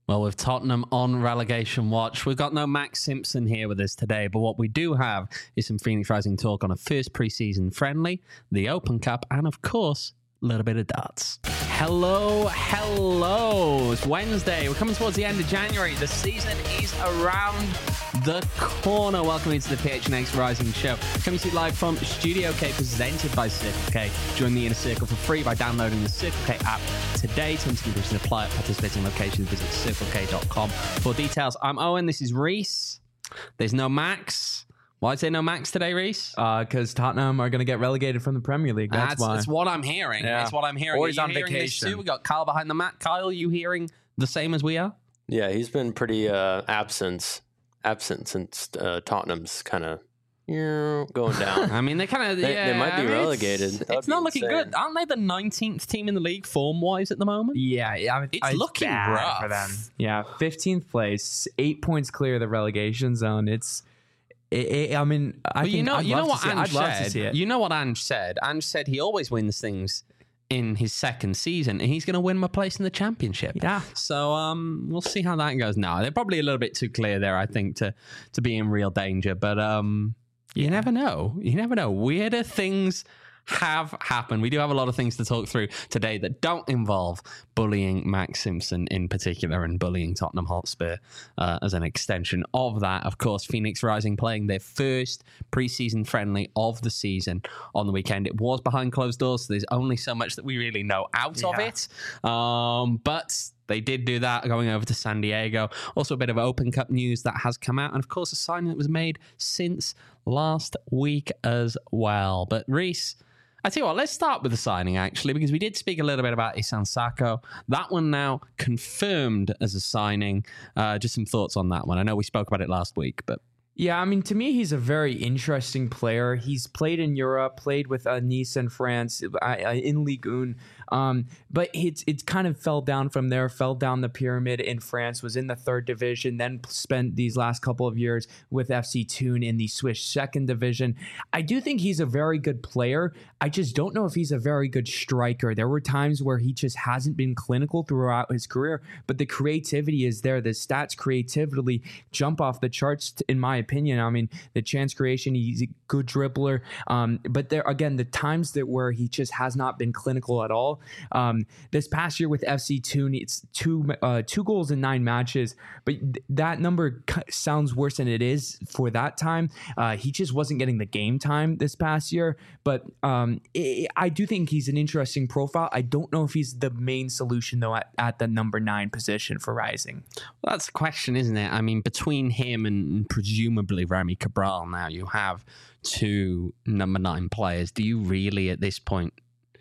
Well, with Tottenham on relegation watch, we've got no Max Simpson here with us today, but what we do have is some Phoenix Rising talk on a first pre-season friendly, the Open Cup, and of course, a little bit of darts. Hello. It's Wednesday. We're coming towards the end of January. The season is around the corner. Welcome into the PHNX Rising Show. Coming to you live from Studio K, presented by Circle K. Join the Inner Circle for free by downloading the Circle K app today. Terms and conditions apply at participating locations. Visit circlek.com for details. I'm Owen. This is Reese. There's no Max. Why is there no Max today, Reese? Because Tottenham are going to get relegated from the Premier League. That's why. That's what I'm hearing. Yeah. That's what I'm hearing. Or he's on vacation. vacation. We got Kyle behind the mat. Kyle, you hearing the same as we are? Yeah, he's been pretty absent since Tottenham's kind of going down. I mean, they kind of they might be relegated. It's not looking good. Aren't they the 19th team in the league form-wise at the moment? Yeah, It's looking bad rough for them. Yeah, 15th place, 8 points clear of the relegation zone. I mean, you know what I'd Ange love to said. see it. You know what Ange said. Ange said he always wins things in his second season, and he's going to win my place in the championship. Yeah. So we'll see how that goes. No, they're probably a little bit too clear there, I think, to be in real danger. But you never know. You never know. Weirder things have happened. We do have a lot of things to talk through today that don't involve bullying Max Simpson in particular and bullying Tottenham Hotspur as an extension of that. Of course, Phoenix Rising playing their first pre-season friendly of the season on the weekend. It was behind closed doors, so there's only so much that we really know out of it. But they did do that, going over to San Diego. Also, a bit of Open Cup news that has come out. And, of course, a signing that was made since last week as well. But, Reese, I tell you what, let's start with the signing, actually, because we did speak a little bit about Isan Sako. That one now confirmed as a signing. Just some thoughts on that one. I know we spoke about it last week, but... Yeah, I mean, to me, he's a very interesting player. He's played in Europe, played with Nice in France, in Ligue 1. But it kind of fell down from there, fell down the pyramid in France, was in the third division, then spent these last couple of years with FC Thun in the Swiss second division. I do think he's a very good player. I just don't know if he's a very good striker. There were times where he just hasn't been clinical throughout his career, but the creativity is there. The stats creatively jump off the charts, in my opinion. I mean, the chance creation, he's a good dribbler. But there, again, the times where he just has not been clinical at all. This past year with FC Thun, it's two goals in 9 matches, but that number sounds worse than it is for that time. He just wasn't getting the game time this past year, but I do think he's an interesting profile. I don't know if he's the main solution, though, at the number 9 position for Rising. Well, that's the question, isn't it? I mean, between him and presumably Remy Cabral now, you have 2 number 9 players. Do you really, at this point,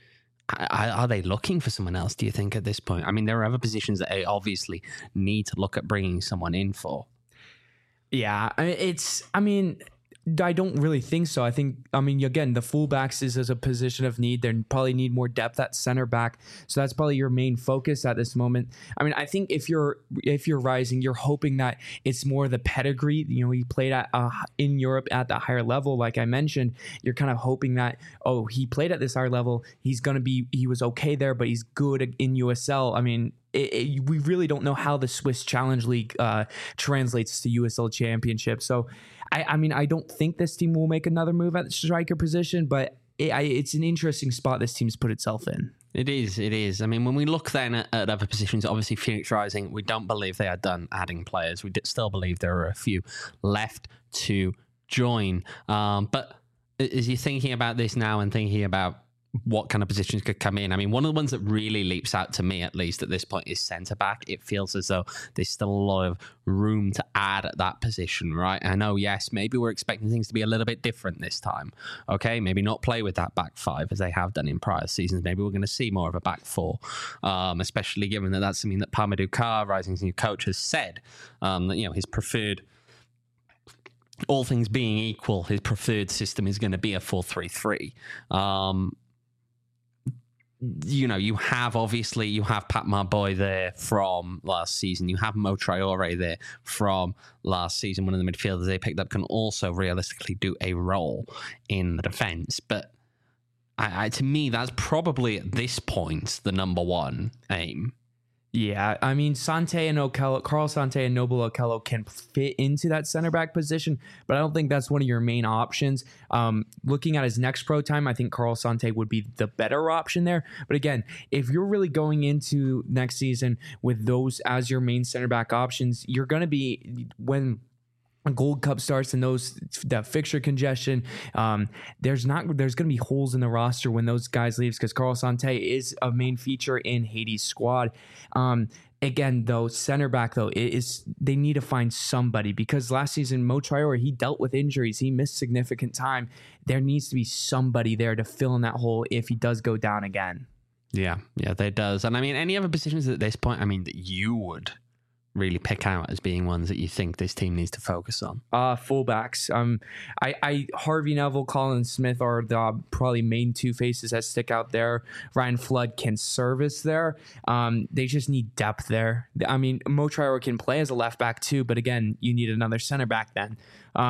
are they looking for someone else, do you think, at this point? I mean, there are other positions that they obviously need to look at bringing someone in for. Yeah, I don't really think so. Again, the fullbacks is as a position of need. They probably need more depth at center back. So that's probably your main focus at this moment. I mean, I think if you're Rising, you're hoping that it's more the pedigree. You know, he played at in Europe at the higher level, like I mentioned. You're kind of hoping that, he played at this higher level. He was okay there, but he's good in USL. I mean, we really don't know how the Swiss Challenge League translates to USL Championship. So, I don't think this team will make another move at the striker position, but it's an interesting spot this team's put itself in. It is. I mean, when we look then at other positions, obviously Phoenix Rising, we don't believe they are done adding players. We still believe there are a few left to join. But as you're thinking about this now and thinking about what kind of positions could come in, I mean, one of the ones that really leaps out to me, at least at this point, is centre-back. It feels as though there's still a lot of room to add at that position, right? I know, yes, maybe we're expecting things to be a little bit different this time, okay? Maybe not play with that back 5 as they have done in prior seasons. Maybe we're going to see more of a back 4, especially given that that's something that Pamadou Carr, Rising's new coach, has said, that, his preferred... all things being equal, his preferred system is going to be a 4-3-3. You have Pat Marboy there from last season. You have Mo Traore there from last season. One of the midfielders they picked up can also realistically do a role in the defense. But to me, that's probably at this point the number one aim. Yeah, I mean, Sante and Okello, Carl Sante and Noble Okello can fit into that center back position, but I don't think that's one of your main options. Looking at his next pro time, I think Carl Sante would be the better option there. But again, if you're really going into next season with those as your main center back options, you're going to be, when Gold Cup starts and that fixture congestion, there's going to be holes in the roster when those guys leaves, because Carl Sante is a main feature in Haiti's squad. Again, though, center back though they need to find somebody, because last season Mo Traore, he dealt with injuries, he missed significant time. There needs to be somebody there to fill in that hole if he does go down again. Yeah, there does. And I mean, any other positions at this point, I mean, that you would really pick out as being ones that you think this team needs to focus on? Fullbacks. Harvey Neville, Colin Smith are the probably main two faces that stick out there. Ryan Flood can service there. They just need depth there. I mean, Mo Traore can play as a left back too, but again, you need another center back then.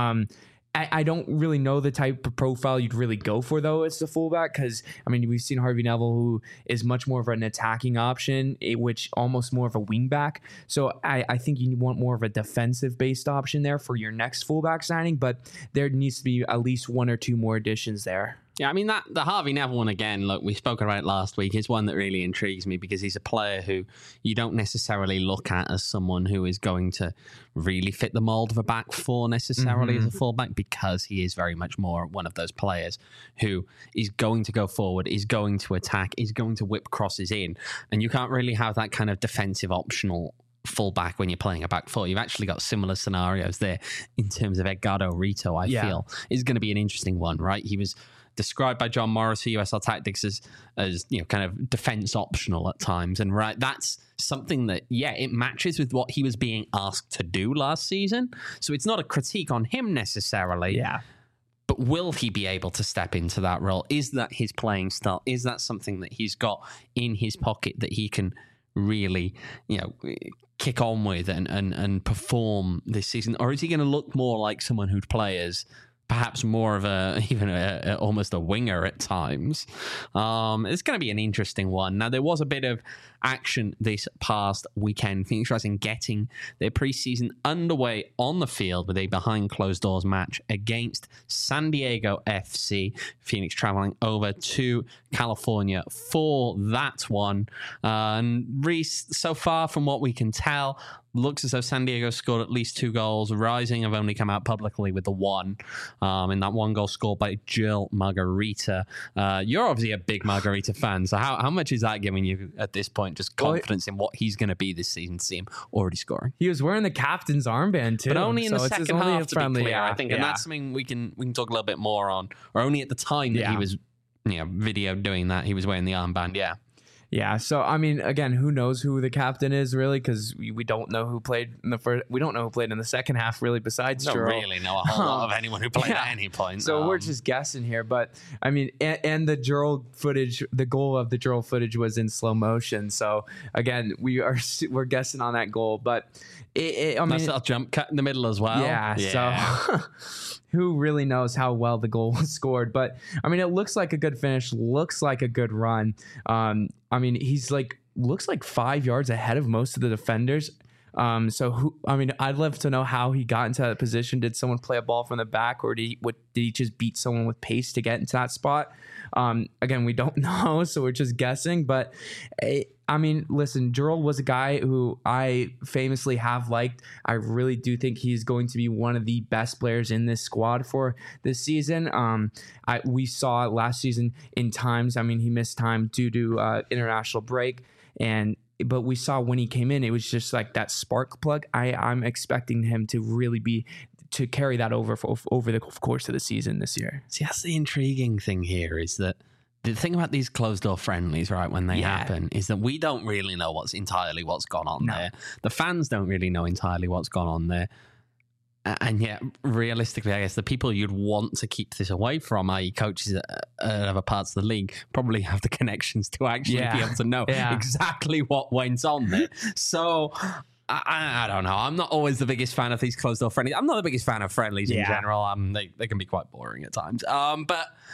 I don't really know the type of profile you'd really go for, though, as the fullback, because, I mean, we've seen Harvey Neville, who is much more of an attacking option, which almost more of a wing back. So I think you want more of a defensive-based option there for your next fullback signing, but there needs to be at least one or two more additions there. Yeah, I mean, the Harvey Neville one, again, look, we spoke about it last week, is one that really intrigues me, because he's a player who you don't necessarily look at as someone who is going to really fit the mold of a back four necessarily as a fullback, because he is very much more one of those players who is going to go forward, is going to attack, is going to whip crosses in, and you can't really have that kind of defensive optional fullback when you're playing a back four. You've actually got similar scenarios there in terms of Edgardo Rito, I feel, is going to be an interesting one, right? He was described by John Morris of USL Tactics as kind of defense optional at times, and right, that's something that it matches with what he was being asked to do last season. So it's not a critique on him necessarily. Yeah. But will he be able to step into that role? Is that his playing style? Is that something that he's got in his pocket that he can really, kick on with and perform this season? Or is he going to look more like someone who'd play as perhaps more of almost a winger at times? It's going to be an interesting one. Now, there was a bit of action this past weekend. Phoenix Rising getting their preseason underway on the field with a behind closed doors match against San Diego FC. Phoenix traveling over to California for that one. And Reese, so far from what we can tell, looks as though San Diego scored at least 2 goals. Rising have only come out publicly with the one. In that one goal scored by Jill Margarita. You're obviously a big Margarita fan, so how much is that giving you at this point just confidence in what he's going to be this season to see him already scoring? He was wearing the captain's armband too, but only in the second half, to be clear, I think, and yeah. that's something we can talk a little bit more on. Or only at the time that he was video doing that, he was wearing the armband. Yeah, so I mean, again, who knows who the captain is really, because we don't know who played in the first. We don't know who played in the second half really. Besides, don't Jurl. really know a whole lot of anyone who played at any point. So we're just guessing here, but I mean, and the Jurl footage, the goal of the Jurl footage was in slow motion. So again, we're guessing on that goal, but I mean, nice little jump cut in the middle as well. Yeah. So who really knows how well the goal was scored? But I mean, it looks like a good finish. Looks like a good run. I mean, he's looks like 5 yards ahead of most of the defenders. I'd love to know how he got into that position. Did someone play a ball from the back, or did he just beat someone with pace to get into that spot? Again, we don't know, so we're just guessing. But I mean, listen, Jurl was a guy who I famously have liked. I really do think he's going to be one of the best players in this squad for this season. We saw last season in times. I mean, he missed time due to international break, but we saw when he came in, it was just like that spark plug. I'm expecting him to really to carry that over the course of the season this year. See, that's the intriguing thing here, is that the thing about these closed door friendlies, right, when they happen, is that we don't really know what's gone on there. The fans don't really know entirely what's gone on there. And yet, realistically, I guess the people you'd want to keep this away from, i.e. coaches at other parts of the league, probably have the connections to actually be able to know exactly what went on there. So I don't know. I'm not always the biggest fan of these closed door friendlies. I'm not the biggest fan of friendlies in general. They can be quite boring at times. But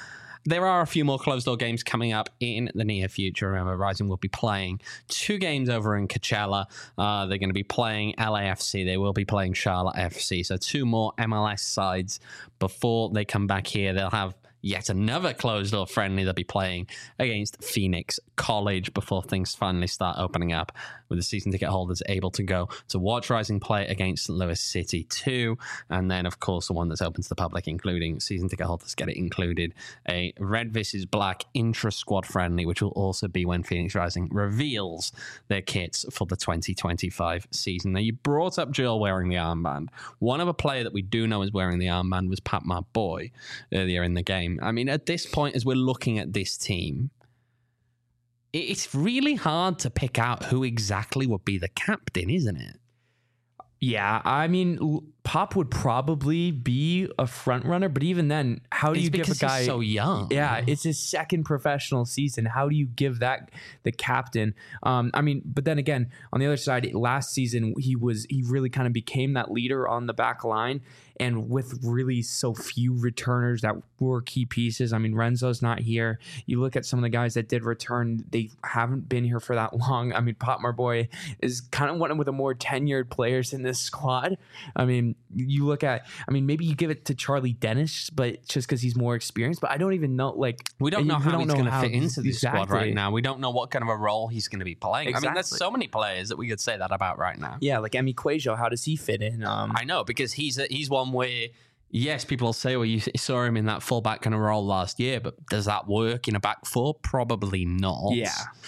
there are a few more closed-door games coming up in the near future. Remember, Rising will be playing 2 games over in Coachella. They're going to be playing LAFC. They will be playing Charlotte FC. So 2 more MLS sides before they come back here. They'll have yet another closed-door friendly. They'll be playing against Phoenix College before things finally start opening up, with the season ticket holders able to go to watch Rising play against Lewis City 2. And then, of course, the one that's open to the public, including season ticket holders, get it included, a Red vs. Black intra-squad friendly, which will also be when Phoenix Rising reveals their kits for the 2025 season. Now, you brought up Joel wearing the armband. One other player that we do know is wearing the armband was Pat Marboy earlier in the game. I mean, at this point, as we're looking at this team, it's really hard to pick out who exactly would be the captain, isn't it? Yeah, I mean, Pop would probably be a front runner, but even then, how do you give a guy he's so young? Yeah, it's his second professional season. How do you give that the captain? I mean, but then again, on the other side, last season he really kind of became that leader on the back line, and with really so few returners that were key pieces. I mean, Renzo's not here. You look at some of the guys that did return; they haven't been here for that long. I mean, Pop Marboy is kind of one of the more tenured players in this squad. I mean, you look at, maybe you give it to Charlie Dennis, but just because he's more experienced. But I don't even know, we don't know how he's going to fit into this squad right now. We don't know what kind of a role he's going to be playing. Exactly. I mean, there's so many players that we could say that about right now. Yeah, like Emi Cuejo, how does he fit in? I know, because he's one where, yes, people will say, well, you saw him in that fullback kind of role last year, but does that work in a back four? Probably not. Yeah.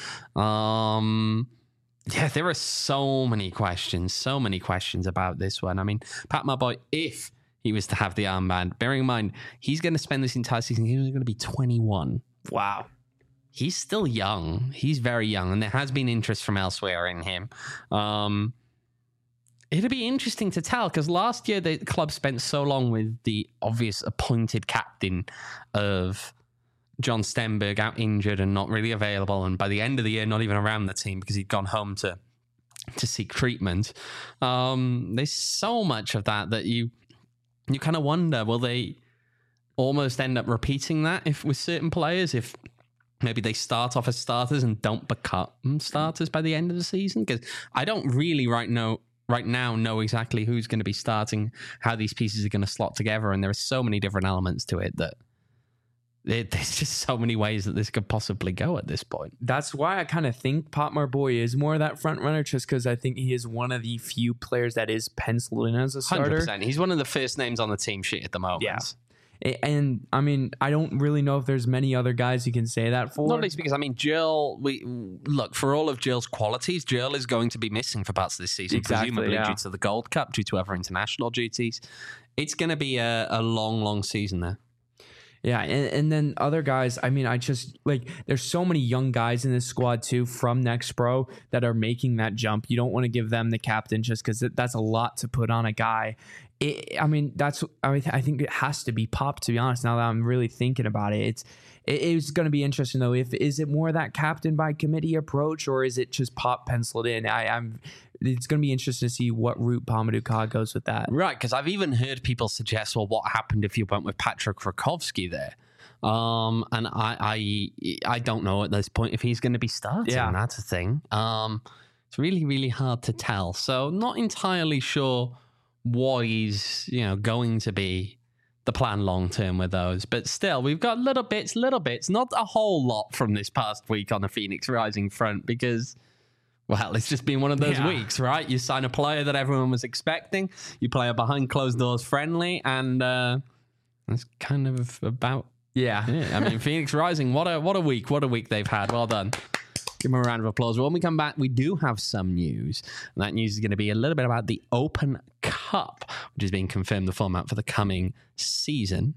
Yeah, there are so many questions about this one. I mean, Pat Marboy, if he was to have the armband, bearing in mind, he's going to spend this entire season, he's going to be 21. Wow. He's still young. He's very young, and there has been interest from elsewhere in him. It'll be interesting to tell, because last year the club spent so long with the obvious appointed captain of John Stenberg out injured and not really available, and by the end of the year not even around the team because he'd gone home to seek treatment. There's so much of that you kind of wonder, will they almost end up repeating that with certain players, if maybe they start off as starters and don't become starters by the end of the season? Because I don't really right now know exactly who's going to be starting, how these pieces are going to slot together, and there are so many different elements to it that there's just so many ways that this could possibly go at this point. That's why I kind of think Pop Marboy is more of that front runner, just because I think he is one of the few players that is penciled in as a starter. 100%. He's one of the first names on the team sheet at the moment. Yeah. And I mean, I don't really know if there's many other guys you can say that for. Not least because, I mean, Joel, look, for all of Joel's qualities, Joel is going to be missing for parts of this season, presumably due to the Gold Cup, due to other international duties. It's going to be a long, long season there. Yeah, and then other guys, I mean, I just, there's so many young guys in this squad, too, from Next Pro that are making that jump. You don't want to give them the captain just because that's a lot to put on a guy. I think it has to be Pop, to be honest, now that I'm really thinking about it. It's going to be interesting, though. Is it more that captain by committee approach, or is it just Pop penciled in? It's going to be interesting to see what route Mamadou Ka goes with that. Right, because I've even heard people suggest, well, what happened if you went with Patrick Rakowski there? And I don't know at this point if he's going to be starting. Yeah. That's a thing. It's really, really hard to tell. So not entirely sure what is going to be the plan long term with those, but still we've got little bits, not a whole lot from this past week on the Phoenix Rising front, because, well, it's just been one of those weeks, right? You sign a player that everyone was expecting, you play a behind closed doors friendly, and that's kind of about I mean, Phoenix Rising, what a week they've had. Well done. Give them a round of applause. When we come back, we do have some news. And that news is going to be a little bit about the Open Cup, which is being confirmed the format for the coming season.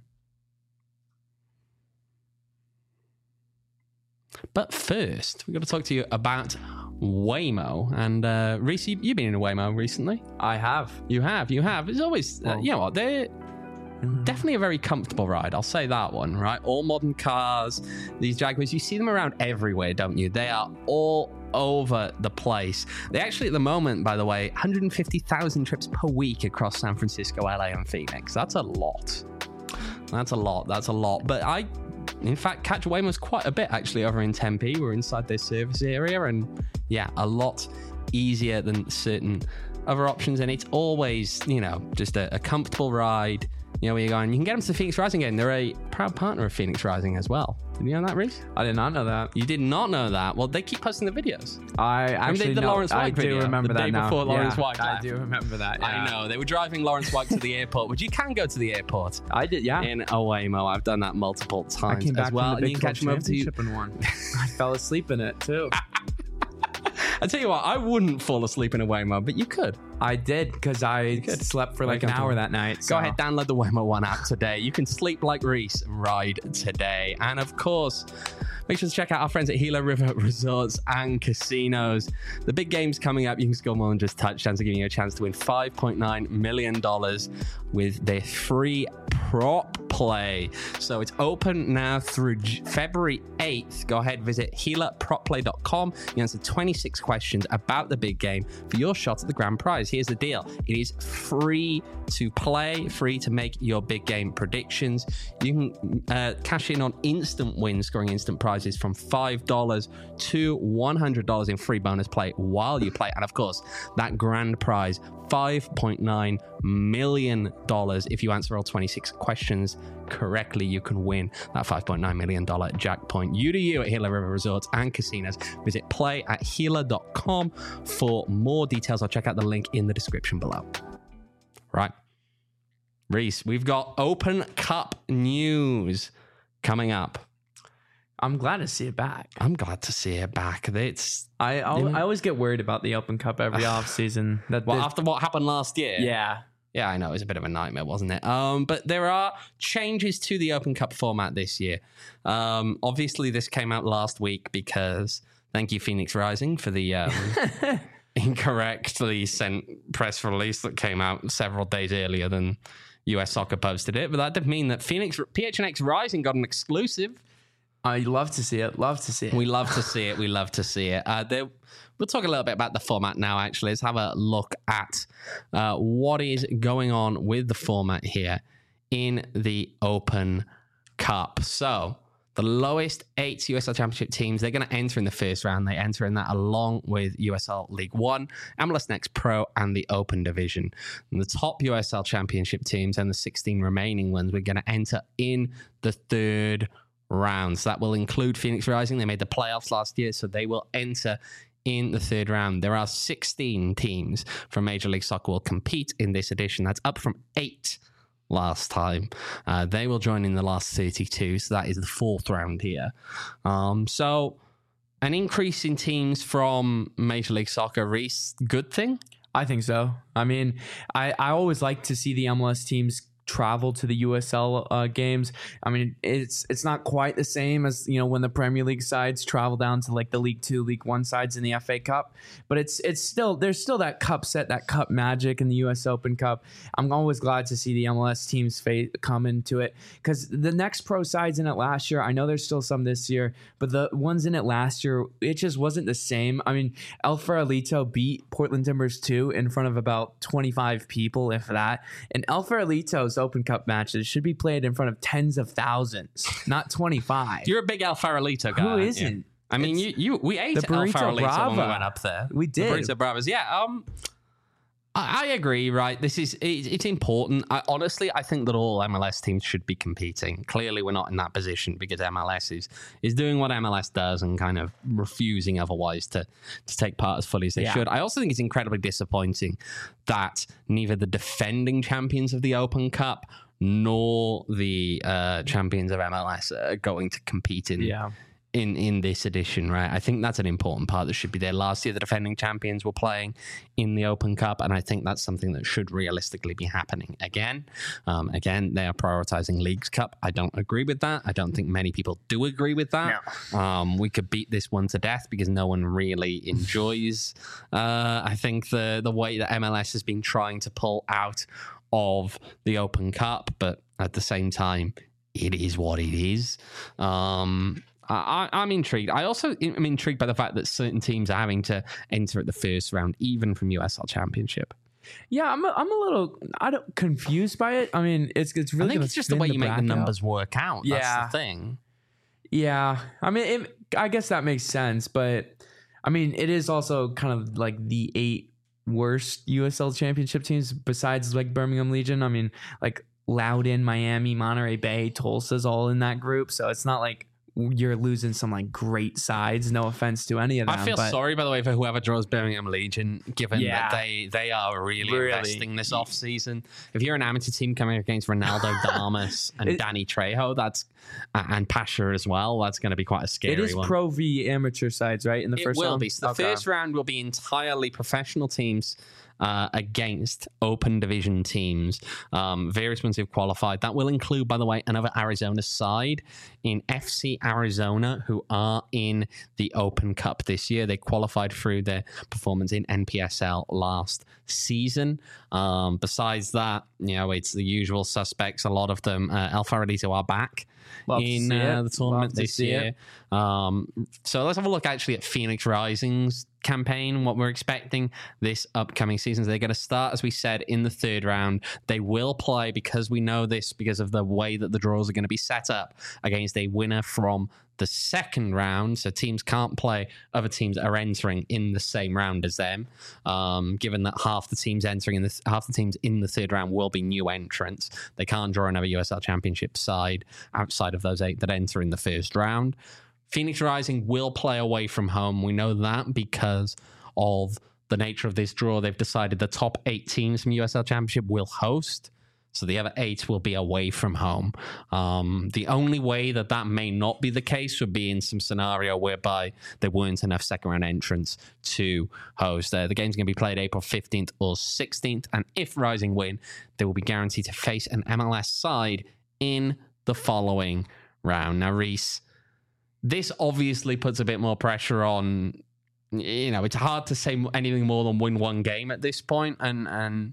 But first, we've got to talk to you about Waymo. And Reese, you've been in a Waymo recently. I have. You have. It's always, you know what, they're definitely a very comfortable ride. I'll say that one, right? All modern cars, these Jaguars, you see them around everywhere, don't you? They are all over the place. They actually, at the moment, by the way, 150,000 trips per week across San Francisco, LA, and Phoenix. That's a lot. But In fact, catch Waymo's quite a bit actually over in Tempe. We're inside their service area, and yeah, a lot easier than certain other options. And it's always, just a comfortable ride. Where you're going. You can get them to Phoenix Rising again. They're a proud partner of Phoenix Rising as well. Did you know that, Reese? I did not know that. You did not know that? Well, they keep posting the videos. I actually the Lawrence White video. I do remember the that day now. before Lawrence White I left. do remember that. Yeah. I know. They were driving Lawrence White to the airport, which you can go to the airport. I did, yeah. In Waymo. I've done that multiple times I came back as well. from the Big and you can catch them over to Championship in one. I fell asleep in it too. I tell you what, I wouldn't fall asleep in a Waymo, but you could. I did because I slept for like an hour that night. Go ahead, download the Waymo One app today. You can sleep like Reese and ride today. And of course, make sure to check out our friends at Gila River Resorts and Casinos. The big game's coming up. You can score more than just touchdowns. They're giving you a chance to win $5.9 million with their free prop play. So it's open now through February 8th. Go ahead, visit GilaPropPlay.com. You answer 26 questions about the big game for your shot at the grand prize. Here's the deal. It is free to play, free to make your big game predictions. You can cash in on instant wins, scoring instant prizes from $5 to $100 in free bonus play while you play. And of course, that grand prize, $5.9 million. If you answer all 26 questions correctly, you can win that $5.9 million jackpot. You to you at Gila River Resorts and Casinos. Visit play@Gila.com for more details. I'll check out the link in the description below. Right. Reese, we've got Open Cup news coming up. I'm glad to see it back. I'm glad to see it back. I always get worried about the Open Cup every offseason. After what happened last year? Yeah. Yeah, I know. It was a bit of a nightmare, wasn't it? But there are changes to the Open Cup format this year. Obviously, this came out last week because, thank you, Phoenix Rising, for the incorrectly sent press release that came out several days earlier than US Soccer posted it. But that did mean that PHNX Rising got an exclusive. I love to see it. Love to see it. We love to see it. We love to see it. We'll talk a little bit about the format now, actually. Let's have a look at what is going on with the format here in the Open Cup. So the lowest 8 USL Championship teams, they're going to enter in the first round. They enter in that along with USL League One, MLS Next Pro, and the Open Division. And the top USL Championship teams and the 16 remaining ones, we're going to enter in the third round. So that will include Phoenix Rising. They made the playoffs last year, so they will enter in the third round. There are 16 teams from Major League Soccer will compete in this edition. That's up from 8 last time. They will join in the last 32, so that is the fourth round here. So an increase in teams from Major League Soccer, Reese, good thing? I think so. I mean, I always like to see the MLS teams travel to the USL games. I mean, it's not quite the same as, when the Premier League sides travel down to like the League 2, League 1 sides in the FA Cup, but it's still, there's still that cup set, that cup magic in the US Open Cup. I'm always glad to see the MLS teams come into it, because the Next Pro sides in it last year, I know there's still some this year, but the ones in it last year, it just wasn't the same. I mean, El Farolito beat Portland Timbers 2 in front of about 25 people, if that, and El Farolito's Open Cup matches should be played in front of tens of thousands, not 25. You're a big El Farolito guy. Who isn't? I mean, we ate the El Burrito Farolito Brava. when we went up there. We did. The Burrito Bravas. Yeah. I agree, right? It's important. I think that all MLS teams should be competing. Clearly, we're not in that position because MLS is doing what MLS does and kind of refusing otherwise to take part as fully as they should. I also think it's incredibly disappointing that neither the defending champions of the Open Cup nor the champions of MLS are going to compete in this edition, right? I think that's an important part that should be there. Last year, the defending champions were playing in the Open Cup, and I think that's something that should realistically be happening again. Again, they are prioritizing Leagues Cup. I don't agree with that. I don't think many people do agree with that. No. We could beat this one to death because no one really enjoys, I think, the way that MLS has been trying to pull out of the Open Cup, but at the same time, it is what it is. I'm intrigued. I also am intrigued by the fact that certain teams are having to enter at the first round, even from USL Championship. Yeah, I'm a little confused by it. I mean, it's really. I think it's just the way you make the numbers work out. That's the thing. Yeah, I mean, I guess that makes sense, but I mean, it is also kind of like the 8 worst USL championship teams besides like Birmingham Legion. I mean, like Loudoun, Miami, Monterey Bay, Tulsa's all in that group, so it's not like you're losing some like great sides. No offense to any of them. I feel sorry, by the way, for whoever draws Birmingham Legion, given that they are really investing this off season. If you're an amateur team coming against Ronaldo Damas and Danny Trejo, and Pasha as well, that's going to be quite a scary one. It is Pro V amateur sides, right? In the first round? It will be. So the first round will be entirely professional teams against open division teams. Various ones who've qualified. That will include, by the way, another Arizona side in FC Arizona, who are in the Open Cup this year. They qualified through their performance in NPSL last season. Besides that, it's the usual suspects. A lot of them, El Farolito are back in the tournament this year. So let's have a look actually at Phoenix Rising's campaign, what we're expecting this upcoming season. They're going to start, as we said, in the third round. They will play, because we know this, because of the way that the draws are going to be set up, against a winner from the second round. So teams can't play other teams that are entering in the same round as them, given that half the teams in the third round will be new entrants. They can't draw another USL Championship side outside of those 8 that enter in the first round. Phoenix Rising will play away from home. We know that because of the nature of this draw. They've decided the top 8 teams from USL Championship will host. So the other 8 will be away from home. The only way that may not be the case would be in some scenario whereby there weren't enough second-round entrants to host. The game's going to be played April 15th or 16th, and if Rising win, they will be guaranteed to face an MLS side in the following round. Now, Reese, this obviously puts a bit more pressure on. It's hard to say anything more than win one game at this point, and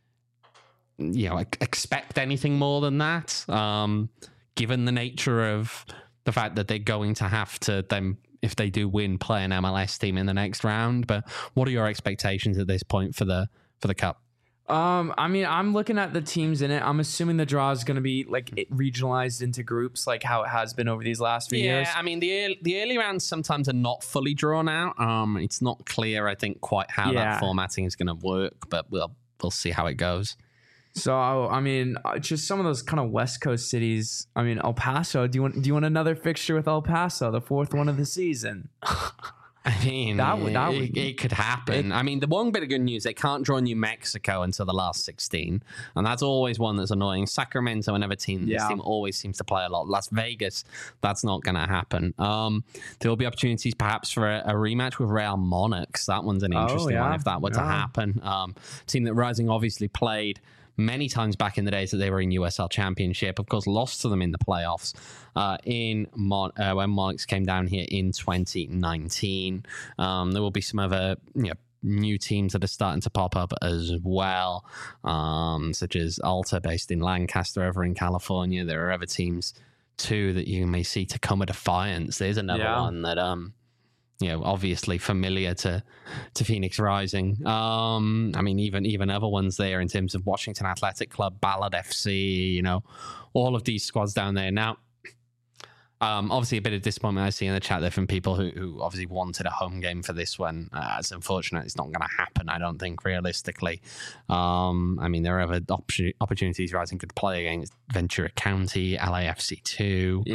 expect anything more than that, given the nature of the fact that they're going to have to then, if they do win, play an MLS team in the next round. But what are your expectations at this point for the Cup? I mean, I'm looking at the teams in it. I'm assuming the draw is going to be like regionalized into groups, like how it has been over these last few years. Yeah, I mean, the early rounds sometimes are not fully drawn out. It's not clear, I think, quite how that formatting is going to work, but we'll see how it goes. So, I mean, just some of those kind of West Coast cities. I mean, El Paso. Do you want another fixture with El Paso, the 4th one of the season? I mean, it could happen. I mean, the one bit of good news, they can't draw New Mexico until the last 16. And that's always one that's annoying. Sacramento, another team, this team always seems to play a lot. Las Vegas, that's not going to happen. There will be opportunities perhaps for a rematch with Real Monarchs. That one's an interesting one if that were to happen. Team that Rising obviously played many times back in the days that they were in USL Championship. Of course, lost to them in the playoffs when Monarchs came down here in 2019. There will be some other new teams that are starting to pop up as well, such as Alta, based in Lancaster over in California. There are other teams too that you may see. Tacoma Defiance, there's another one that obviously familiar to Phoenix Rising. I mean, even other ones there in terms of Washington Athletic Club, Ballard FC, all of these squads down there. Now, obviously a bit of disappointment I see in the chat there from people who obviously wanted a home game for this one. It's unfortunate it's not going to happen, I don't think, realistically. I mean, there are other opportunities Rising could play against Ventura County, LAFC 2,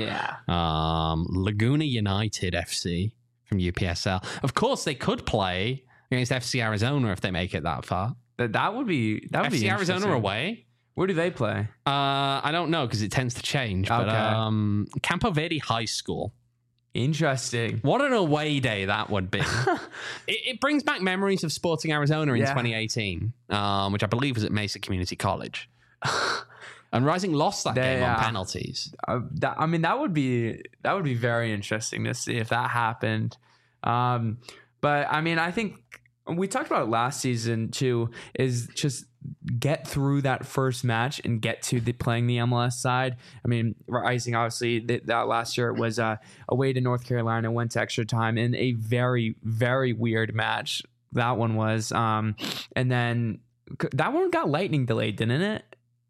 Laguna United FC from UPSL. Of course, they could play against FC Arizona if they make it that far. That would be FC Arizona away. Where do they play? I don't know because it tends to change. Okay. But Campo Verde High School. Interesting. What an away day that would be. It brings back memories of Sporting Arizona in 2018, which I believe was at Mesa Community College. And Rising lost that game on penalties. That would be very interesting to see if that happened. But I mean, I think we talked about it last season too, is just get through that first match and get to playing the MLS side. I mean, Rising, obviously, that last year it was away to North Carolina, went to extra time in a very, very weird match. That one was. And then that one got lightning delayed, didn't it?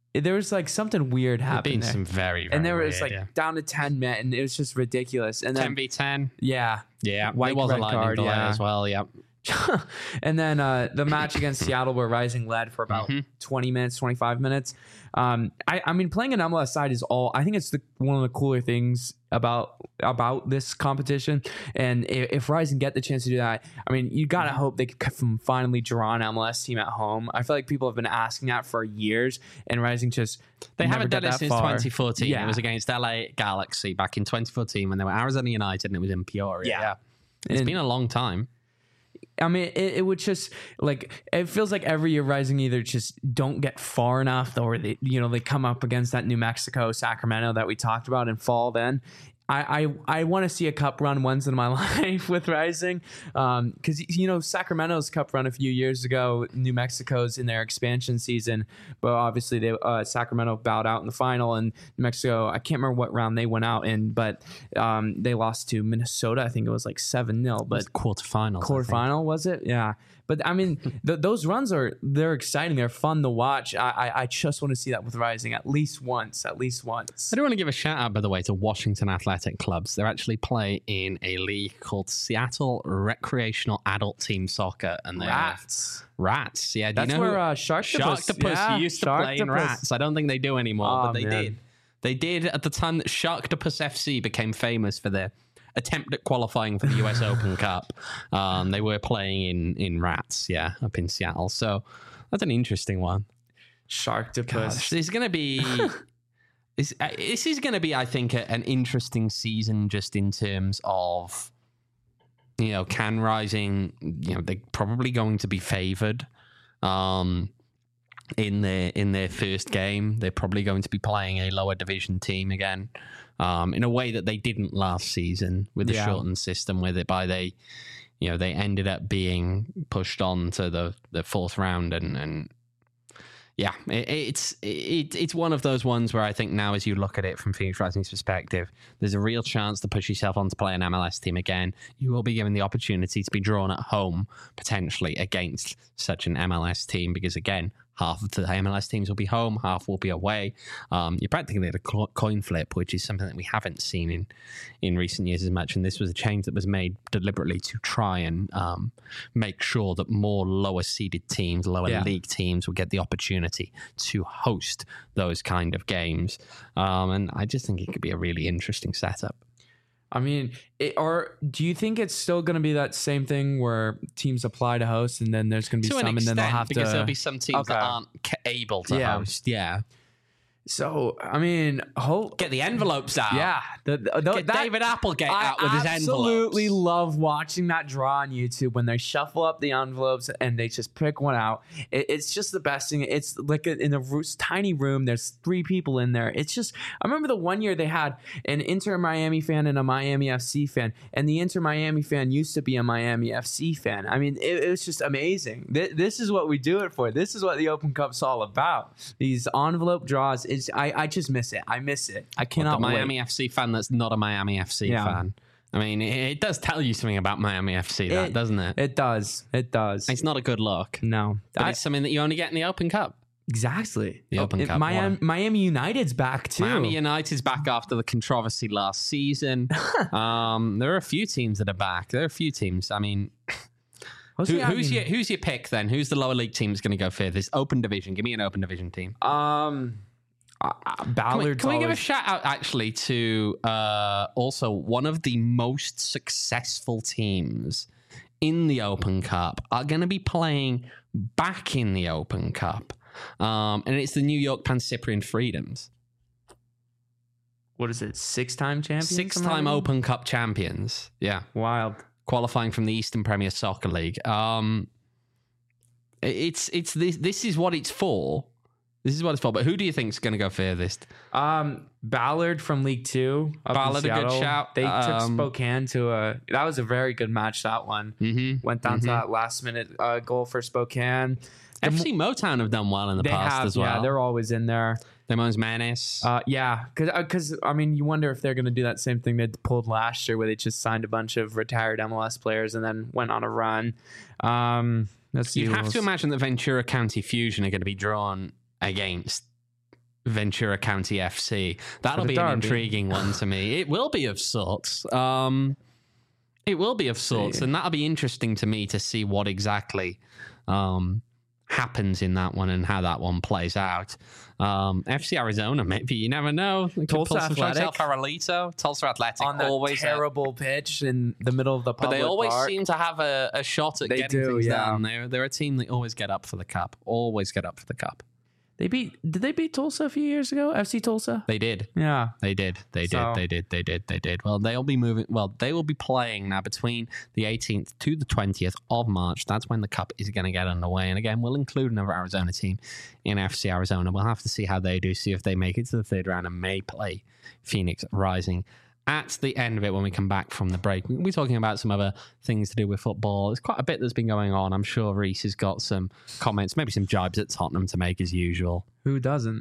there was like something weird There've happening been there. some very, very And there was weird, like down to 10 men, and it was just ridiculous. And then 10v10. yeah, Yeah, White there was a red lightning card, delay yeah. as well. Yep. and then the match against Seattle where Rising led for about 20 minutes, 25 minutes. I mean, playing an MLS side is I think it's one of the cooler things about this competition. And if Rising get the chance to do that, I mean, you got to hope they can finally draw an MLS team at home. I feel like people have been asking that for years, and Rising just They never haven't got done it that since far. 2014. Yeah. It was against LA Galaxy back in 2014 when they were Arizona United and it was in Peoria. Yeah. It's And- been a long time. I mean, it would just like it feels like every year Rising either just don't get far enough, or they come up against that New Mexico, Sacramento that we talked about and fall. Then I want to see a cup run once in my life with Rising, because Sacramento's cup run a few years ago, New Mexico's in their expansion season, but obviously they Sacramento bowed out in the final, and New Mexico, I can't remember what round they went out in, but they lost to Minnesota. I think it was like 7-0, but Quarterfinals. quarterfinal was it? Yeah. But I mean, those runs they're exciting. They're fun to watch. I just want to see that with Rising at least once. I do want to give a shout out, by the way, to Washington Athletic Clubs. They actually play in a league called Seattle Recreational Adult Team Soccer, and they're Rats. Yeah, do That's you know where who Sharktopus used to play in Rats? I don't think they do anymore, but they man. did. They did at the time that Sharktopus FC became famous for their attempt at qualifying for the US Open Cup. They were playing in Rats, up in Seattle. So that's an interesting one. Sharktopus. There's going to be... This is going to be, I think, an interesting season just in terms of, can Rising, they're probably going to be favored in their first game. They're probably going to be playing a lower division team again, in a way that they didn't last season with the shortened system, whereby they ended up being pushed on to the fourth round and yeah, it's one of those ones where I think now, as you look at it from Phoenix Rising's perspective, there's a real chance to push yourself on to play an MLS team again. You will be given the opportunity to be drawn at home, potentially, against such an MLS team, because, again, half of the MLS teams will be home, half will be away. You're practically at a coin flip, which is something that we haven't seen in recent years as much. And this was a change that was made deliberately to try and make sure that more lower-seeded teams, lower league teams will get the opportunity to host those kind of games. And I just think it could be a really interesting setup. I mean, do you think it's still going to be that same thing where teams apply to host, and then there's going to be some, and then they'll have because there'll be some teams that aren't able to host. Yeah. So, I mean, get the envelopes out. Yeah. Get David Applegate out with his envelopes. I absolutely love watching that draw on YouTube when they shuffle up the envelopes and they just pick one out. It's just the best thing. It's like in a tiny room. There's 3 people in there. It's just, I remember the one year they had an Inter Miami fan and a Miami FC fan, and the Inter Miami fan used to be a Miami FC fan. I mean, it was just amazing. This is what we do it for. This is what the Open Cup's all about. These envelope draws. I just miss it. I miss it. I cannot wait. The Miami FC fan that's not a Miami FC fan. I mean, it does tell you something about Miami FC, doesn't it? It does. It does. It's not a good look. No. But it's something that you only get in the Open Cup. Exactly. The Open Cup. Miami United's back, too. Miami United's back after the controversy last season. There are a few teams that are back. There are a few teams. I mean... Who's your pick, then? Who's the lower league team that's going to go further? This open division. Give me an open division team. Ballard. Can we give a shout out actually to also one of the most successful teams in the Open Cup are going to be playing back in the Open Cup, and it's the New York Pan-Cyprian Freedoms. What is it? 6-time champions? 6-time Open Cup champions. Yeah, wild. Qualifying from the Eastern Premier Soccer League. This is what it's for. This is what it's for. But who do you think is going to go furthest? Ballard from League 2. Ballard, a good shout. They took Spokane to that was a very good match, that one. Mm-hmm. Went down to that last minute goal for Spokane. FC Motown have done well in the past as well. Yeah, they're always in there. Demon's Menace. Yeah, because I mean, you wonder if they're going to do that same thing they pulled last year, where they just signed a bunch of retired MLS players and then went on a run. You have to imagine that Ventura County Fusion are going to be drawn against Ventura County FC. That'll the be an derby. intriguing one to me. It will be of sorts. It will be of sorts, and that'll be interesting to me to see what exactly happens in that one and how that one plays out. FC Arizona, maybe, you never know. Tulsa Athletic. El Farolito, Tulsa Athletic, On the always terrible pitch in the middle of the but public they always park. seem to have a shot at They getting do, things yeah. done. They're a team that always get up for the cup. Always get up for the cup. Did they beat Tulsa a few years ago? FC Tulsa? They did. Yeah. They did. They So- did. Well, they'll be moving. Well, they will be playing now between the 18th to the 20th of March. That's when the cup is going to get underway. And again, we'll include another Arizona team in FC Arizona. We'll have to see how they do, see if they make it to the third round and may play Phoenix Rising at the end of it when we come back from the break. We'll be talking about some other things to do with football. There's quite a bit that's been going on. I'm sure Reese has got some comments, maybe some jibes at Tottenham to make as usual. Who doesn't?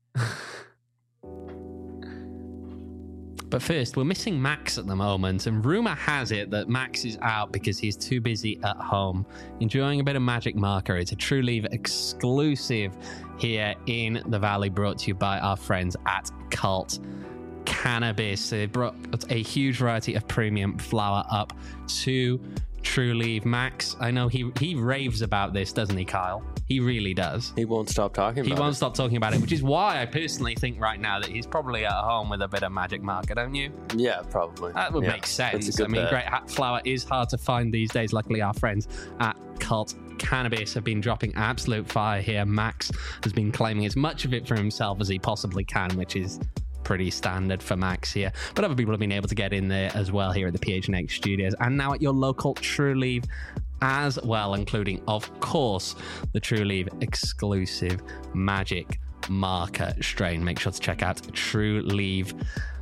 But first, we're missing Max at the moment, and rumour has it that Max is out because he's too busy at home enjoying a bit of Magic Marker. It's a True Leave exclusive here in the Valley, brought to you by our friends at Cult Cannabis. They brought a huge variety of premium flower up to True Leave. Max, I know he raves about this, doesn't he, Kyle? He really does. He won't stop talking about He won't it. stop talking about it, which is why I personally think right now that he's probably at home with a bit of Magic Marker, don't you? Yeah, probably. That would Yeah, make that's a sense. good I mean, bet. great flower is hard to find these days. Luckily, our friends at Cult Cannabis have been dropping absolute fire here. Max has been claiming as much of it for himself as he possibly can, which is pretty standard for Max here. But other people have been able to get in there as well here at the PHNX studios and now at your local True Leave as well, including, of course, the True Leave exclusive Magic Marker strain. Make sure to check out True Leave.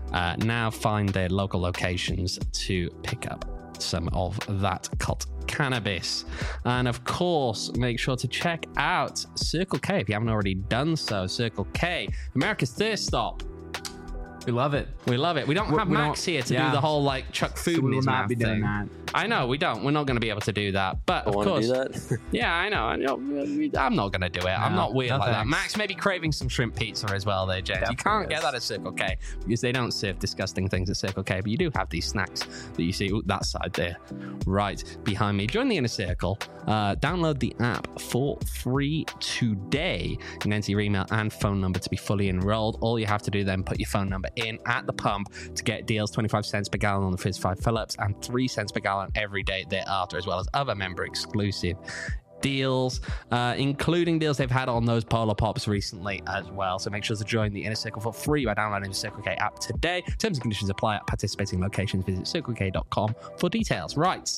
Now find their local locations to pick up some of that Cult Cannabis. And of course, make sure to check out Circle K if you haven't already done so. Circle K, America's thirst stop. We love it. We love it. We don't have Max here to do the whole like chuck food So in we will his not mouth be doing thing. that. I know we don't. We're not going to be able to do that. But I of want to course, do that. yeah, I know. I'm not going to do it. I'm No, not weird no like that. thanks. Max may be craving some shrimp pizza as well there, James. You can't get that at Circle K because they don't serve disgusting things at Circle K, but you do have these snacks that you see that side there right behind me. Join the Inner Circle. Download the app for free today and enter your email and phone number to be fully enrolled. All you have to do then, put your phone number in at the pump to get deals 25 cents per gallon on the first 5 fill-ups and 3 cents per gallon every day thereafter, as well as other member exclusive deals, including deals they've had on those Polar Pops recently as well. So make sure to join the Inner Circle for free by downloading the Circle K app today. Terms and conditions apply at participating locations. Visit circlek.com for details. Right.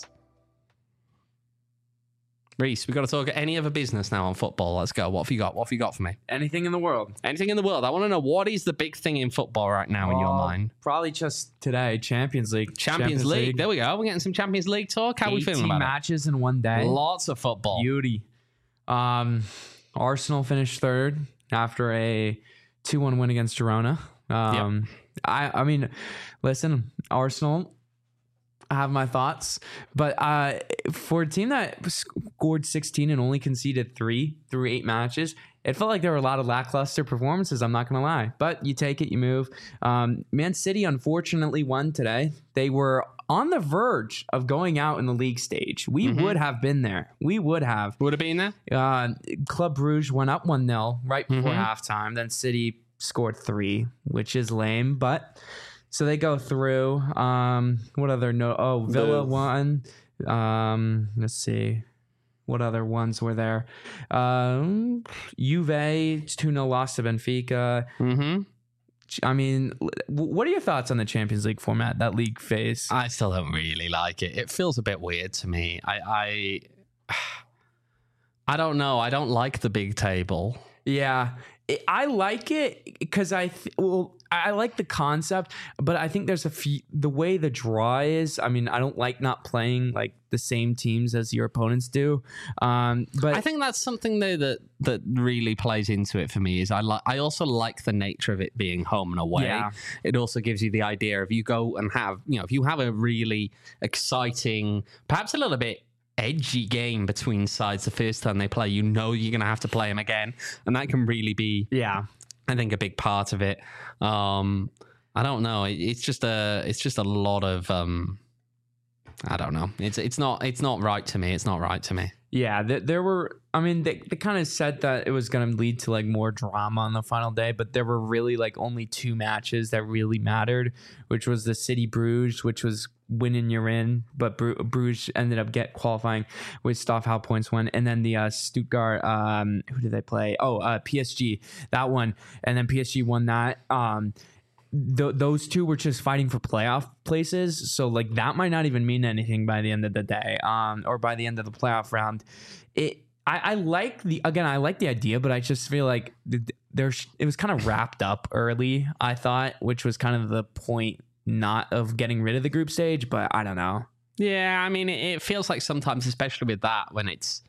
Reese, we've got to talk any other business now on football. Let's go. What have you got? What have you got for me? Anything in the world. Anything in the world. I want to know, what is the big thing in football right now in your mind? Probably just today, Champions League. Champions League. There we go. We're getting some Champions League talk. How are we feeling 18 about matches in one day. it? Lots of football. Beauty. Arsenal finished third after a 2-1 win against Girona. I mean, listen, Arsenal, I have my thoughts, but for a team that scored 16 and only conceded 3 through 8 matches, it felt like there were a lot of lackluster performances, I'm not going to lie. But you take it, you move. Man City unfortunately won today. They were on the verge of going out in the league stage. We would have been there. We would have. Would have been there? Club Brugge went up 1-0 right before halftime. Then City scored 3, which is lame, but... So they go through. What other Villa won. Let's see. What other ones were there? Juve 2-0 loss to Benfica. Mm-hmm. I mean, what are your thoughts on the Champions League format, that league phase? I still don't really like it. It feels a bit weird to me. I don't know. I don't like the big table. Yeah, I like it because I like the concept, but I think there's the way the draw is. I mean, I don't like not playing like the same teams as your opponents do. But I think that's something though that really plays into it for me. Is I also like the nature of it being home and away. Yeah. It also gives you the idea of you go and have, if you have a really exciting, perhaps a little bit edgy game between sides the first time they play, you're going to have to play them again, and that can really be I think, a big part of it. I don't know. It's just a lot of I don't know. It's not right to me. It's not right to me. Yeah, there were. I mean, they kind of said that it was going to lead to like more drama on the final day, but there were really like only 2 matches that really mattered, which was the City Bruges, which was winning you're in, but Bruges ended up qualifying with Stoffel points won, and then the Stuttgart. Who did they play? Oh, PSG. That one, and then PSG won that. Those 2 were just fighting for playoff places, so like that might not even mean anything by the end of the day, or by the end of the playoff round. I like the idea, but I just feel like it was kind of wrapped up early, I thought, which was kind of the point, not of getting rid of the group stage, but I don't know. Yeah, I mean, it feels like sometimes, especially with that, when it's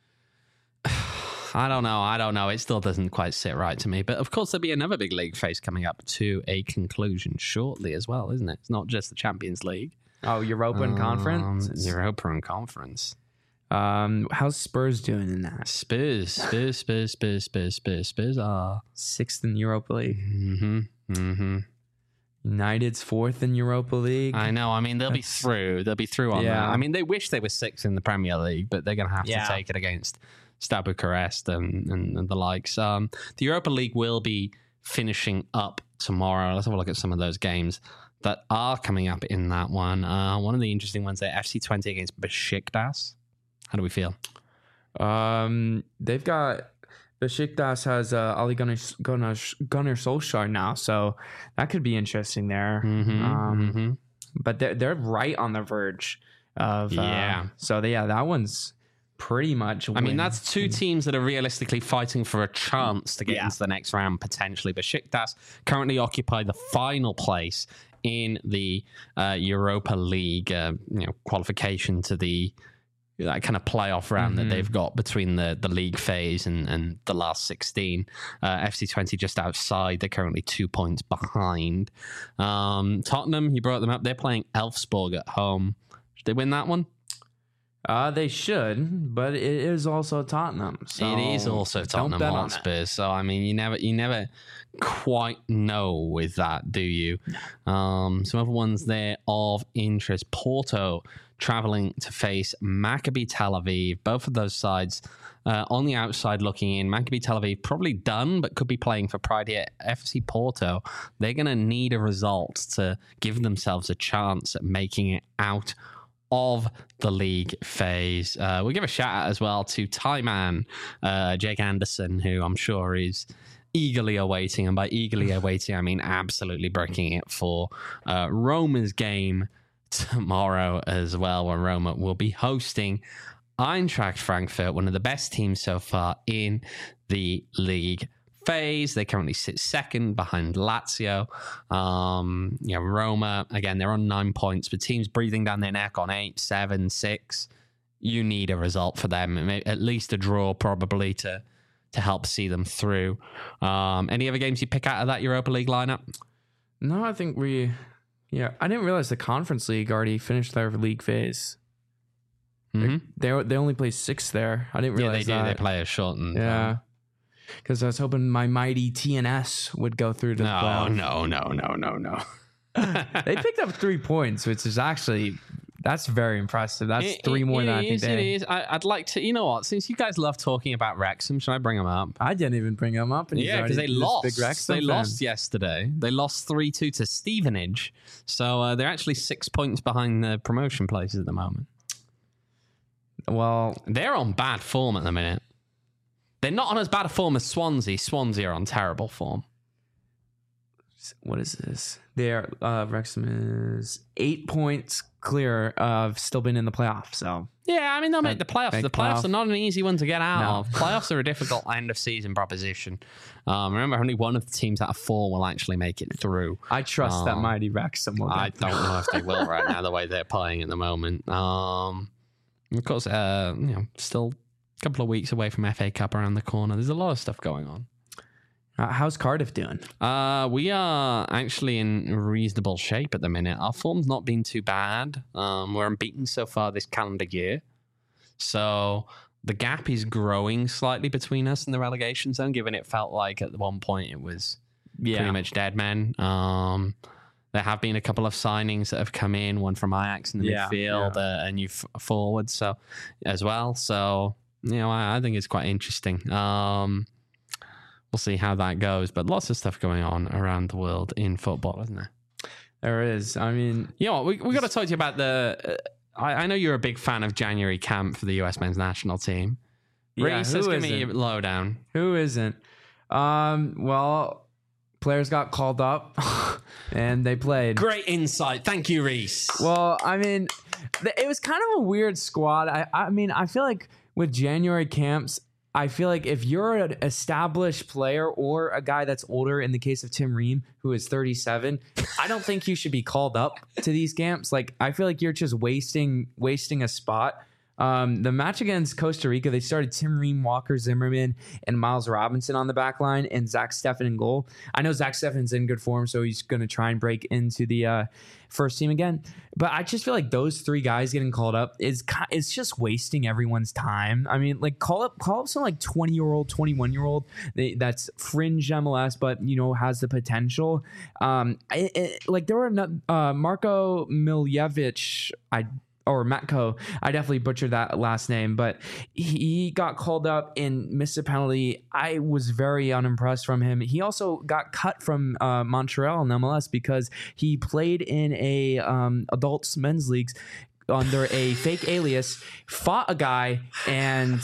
I don't know. It still doesn't quite sit right to me. But of course, there'll be another big league phase coming up to a conclusion shortly as well, isn't it? It's not just the Champions League. Oh, Europa and Conference? Europa and Conference. How's Spurs doing in that? Spurs are 6th in Europa League. United's 4th in Europa League. I know. I mean, they'll be through. They'll be through on that. I mean, they wish they were 6th in the Premier League, but they're going to have to take it against Steaua Bucharest and the likes. The Europa League will be finishing up tomorrow. Let's have a look at some of those games that are coming up in that one. One of the interesting ones there, FC Twente against Besiktas. How do we feel? They've got Besiktas has Ole Gunnar Solskjaer now, so that could be interesting there. But they're right on the verge of So that one's pretty much win. I mean, that's 2 teams that are realistically fighting for a chance to get into the next round potentially. Besiktas currently occupy the final place in the Europa League qualification to the that kind of playoff round that they've got between the league phase and the last 16. FC Twente just outside. They're currently 2 points behind. Tottenham, you brought them up. They're playing Elfsborg at home. Should they win that one? They should, but it is also Tottenham. So it is also Tottenham Hotspur. So I mean, you never quite know with that, do you? Some other ones there of interest: Porto traveling to face Maccabi Tel Aviv. Both of those sides on the outside looking in. Maccabi Tel Aviv probably done, but could be playing for pride here. FC Porto, they're going to need a result to give themselves a chance at making it out of the league phase. We'll give a shout out as well to Thai man Jake Anderson, who I'm sure is eagerly awaiting, and by eagerly awaiting I mean absolutely breaking it for Roma's game tomorrow as well, when Roma will be hosting Eintracht Frankfurt, one of the best teams so far in the league phase. They currently sit 2nd behind Lazio. Roma, again, they're on 9 points, but teams breathing down their neck on 8, 7, 6. You need a result for them, at least a draw probably to help see them through. Any other games you pick out of that Europa League lineup? No, I think I didn't realize the Conference League already finished their league phase. They only play 6 there. I didn't realize they do. that. They play a shortened. Yeah. Because I was hoping my mighty TNS would go through to the playoff. No. They picked up 3 points, which is actually, that's very impressive. That's 3 more than I think they... It is. I'd like to, you know what, since you guys love talking about Wrexham, should I bring them up? I didn't even bring them up. Yeah, because they lost. They lost yesterday. They lost 3-2 to Stevenage. So they're actually 6 points behind the promotion places at the moment. Well, they're on bad form at the minute. They're not on as bad a form as Swansea. Swansea are on terrible form. What is this? Wrexham is 8 points clear of still being in the playoffs. So yeah, I mean they'll make the playoffs. The playoffs are not an easy one to get out of. Playoffs are a difficult end of season proposition. Remember, only one of the teams out of 4 will actually make it through. I trust that mighty Wrexham will. I don't know if they will right now, the way they're playing at the moment. Of course, still a couple of weeks away from FA Cup around the corner. There's a lot of stuff going on. How's Cardiff doing? We are actually in reasonable shape at the minute. Our form's not been too bad. We're unbeaten so far this calendar year. So the gap is growing slightly between us and the relegation zone, given it felt like at one point it was pretty much dead men. There have been a couple of signings that have come in, one from Ajax in the midfield, a new forward as well. So, I think it's quite interesting. We'll see how that goes. But lots of stuff going on around the world in football, isn't there? There is. I mean... we got to talk to you about the... I know you're a big fan of January camp for the US men's national team. Reese, give me a lowdown. Who isn't? Well... Players got called up and they played. Great insight. Thank you, Reese. Well, I mean, it was kind of a weird squad. I mean, I feel like with January camps, I feel like if you're an established player or a guy that's older, in the case of Tim Ream, who is 37, I don't think you should be called up to these camps. Like, I feel like you're just wasting a spot. The match against Costa Rica, they started Tim Ream, Walker Zimmerman, and Miles Robinson on the back line, and Zach Steffen in goal. I know Zach Steffen's in good form, so he's going to try and break into the first team again. But I just feel like those three guys getting called up it's just wasting everyone's time. I mean, like call up some like 20-year-old, 21-year-old that's fringe MLS, but has the potential. Like there were Marko Miljevic, or Matko. I definitely butchered that last name, but he got called up and missed a penalty. I was very unimpressed from him. He also got cut from Montreal in MLS because he played in a adults men's leagues under a fake alias, fought a guy, and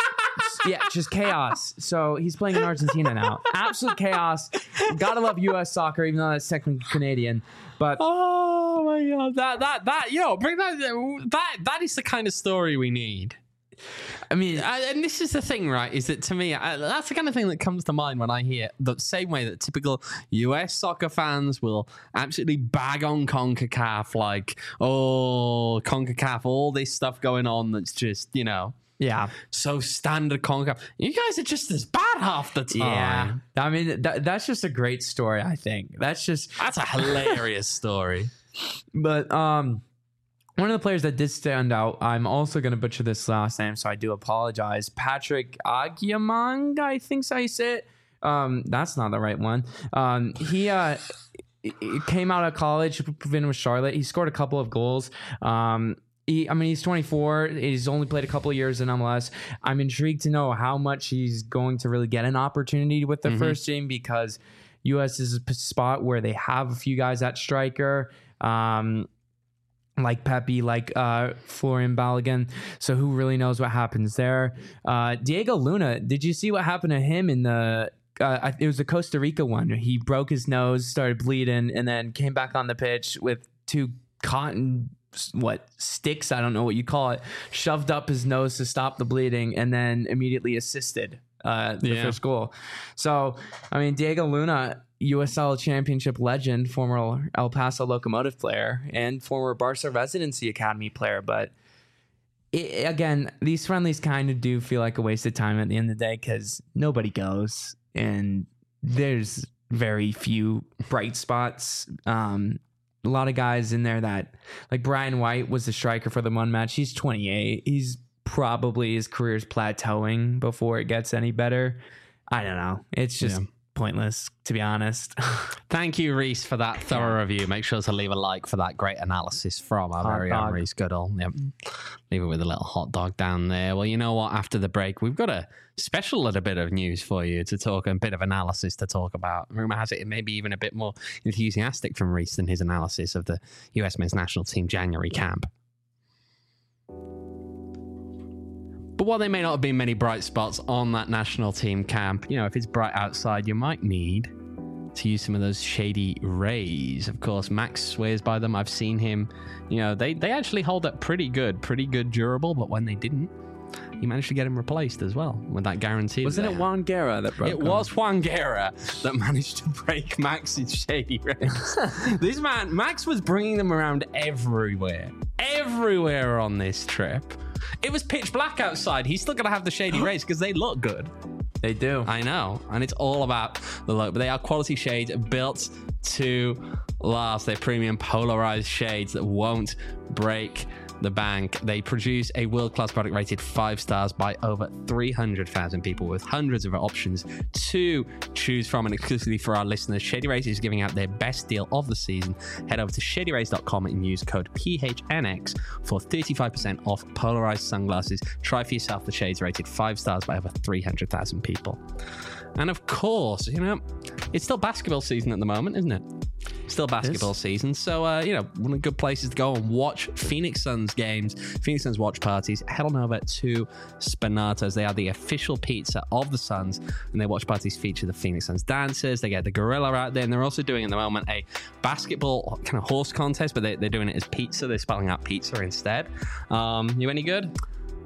just chaos. So he's playing in Argentina now. Absolute chaos. Gotta love U.S. soccer, even though that's technically Canadian. But oh my god, bring that is the kind of story we need. I mean, and this is the thing, right? Is that to me, that's the kind of thing that comes to mind when I hear the same way that typical US soccer fans will absolutely bag on CONCACAF, like, oh, CONCACAF, all this stuff going on that's just, yeah, so standard CONCACAF. You guys are just as bad half the time. Yeah, I mean, that's just a great story, I think. That's a hilarious story. But one of the players that did stand out, I'm also going to butcher this last name, so I do apologize. Patrick Agyemang, I think so you say it. That's not the right one. He came out of college, been with Charlotte. He scored a couple of goals. He's 24. He's only played a couple of years in MLS. I'm intrigued to know how much he's going to really get an opportunity with the first team, because U.S. is a spot where they have a few guys at striker, like Pepe, like Florian Balogun. So who really knows what happens there? Diego Luna, did you see what happened to him in the... it was the Costa Rica one. He broke his nose, started bleeding, and then came back on the pitch with two cotton... sticks, I don't know what you call it, shoved up his nose to stop the bleeding, and then immediately assisted the first goal. So, I mean, Diego Luna, USL Championship legend, former El Paso Locomotive player, and former Barca Residency Academy player. But again, these friendlies kind of do feel like a waste of time at the end of the day, because nobody goes, and there's very few bright spots. A lot of guys in there that, like Brian White was the striker for the one match. He's 28. He's probably, his career's plateauing before it gets any better. I don't know. It's just pointless, to be honest. Thank you, Reese, for that thorough review. Make sure to leave a like for that great analysis from our very own Reese Goodall. Yep. Leave it with a little hot dog down there. Well, you know what? After the break, we've got a special little bit of news for you to talk, a bit of analysis to talk about. Rumor has it may be even a bit more enthusiastic from Reese than his analysis of the US men's national team January camp. But while there may not have been many bright spots on that national team camp, if it's bright outside, you might need to use some of those shady rays. Of course, Max swears by them. I've seen him. They actually hold up pretty good durable, but when they didn't, he managed to get him replaced as well with that guarantee. Wasn't it Juan Guerra that broke him? It was Juan Guerra that managed to break Max's shady rays. This man, Max was bringing them around everywhere on this trip. It was pitch black outside. He's still going to have the shady rays because they look good. They do. I know. And it's all about the look. But they are quality shades built to last. They're premium polarized shades that won't break the bank. They produce a world-class product rated 5 stars by over 300,000 people with hundreds of options to choose from. And exclusively for our listeners, Shady Rays is giving out their best deal of the season. Head over to shadyrays.com and use code PHNX for 35% off polarized sunglasses. Try for yourself the shades rated 5 stars by over 300,000 people. And of course, it's still basketball season at the moment, isn't it? Still basketball season. So, one of the good places to go and watch Phoenix Suns games, Phoenix Suns watch parties, head on over to Spinatos. They are the official pizza of the Suns, and their watch parties feature the Phoenix Suns dancers. They get the gorilla out there, and they're also doing at the moment a basketball kind of horse contest, but they're doing it as pizza. They're spelling out pizza instead. You any good?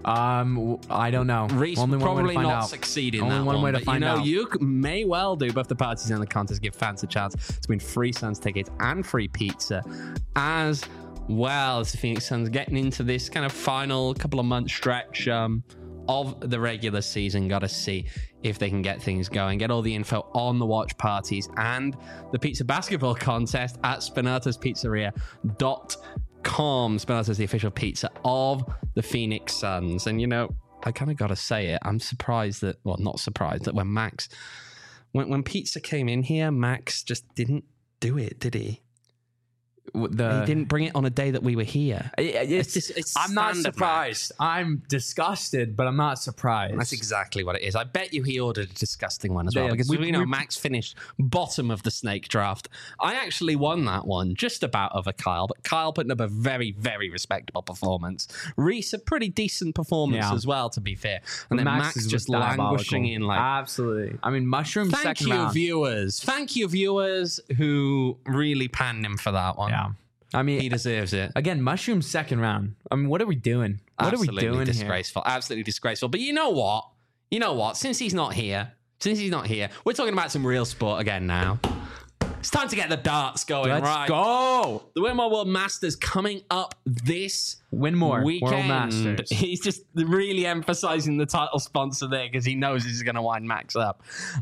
I don't know. Reese Only one probably way to find not out. succeed in Only that one way to but, find out. You may well do both the parties and the contest, give fans a chance to win free Suns tickets and free pizza, as well as the Phoenix Suns getting into this kind of final couple of month stretch of the regular season. Got to see if they can get things going. Get all the info on the watch parties and the pizza basketball contest at Spinatospizzeria.com. Spinatos is the official pizza of the Phoenix Suns. And, I kind of got to say it. I'm surprised that, well, not surprised that when pizza came in here, Max just didn't do it, did he? He didn't bring it on a day that we were here. I'm not surprised. Max. I'm disgusted, but I'm not surprised. That's exactly what it is. I bet you he ordered a disgusting one as well, Yeah, because Max finished bottom of the snake draft. I actually won that one just about over Kyle, but Kyle putting up a very, very respectable performance. Reese, a pretty decent performance as well, to be fair. And then Max just languishing in like... Absolutely. I mean, Mushroom second round. Thank you, viewers, who really panned him for that one. Yeah. I mean, he deserves it. Again, Mushroom second round. I mean, what are we doing? Absolutely disgraceful. Absolutely disgraceful. But you know what? Since he's not here, we're talking about some real sport again now. It's time to get the darts going. Let's go. The Winmore World Masters coming up this Winmore weekend. World Masters. He's just really emphasizing the title sponsor there because he knows this is going to wind Max up.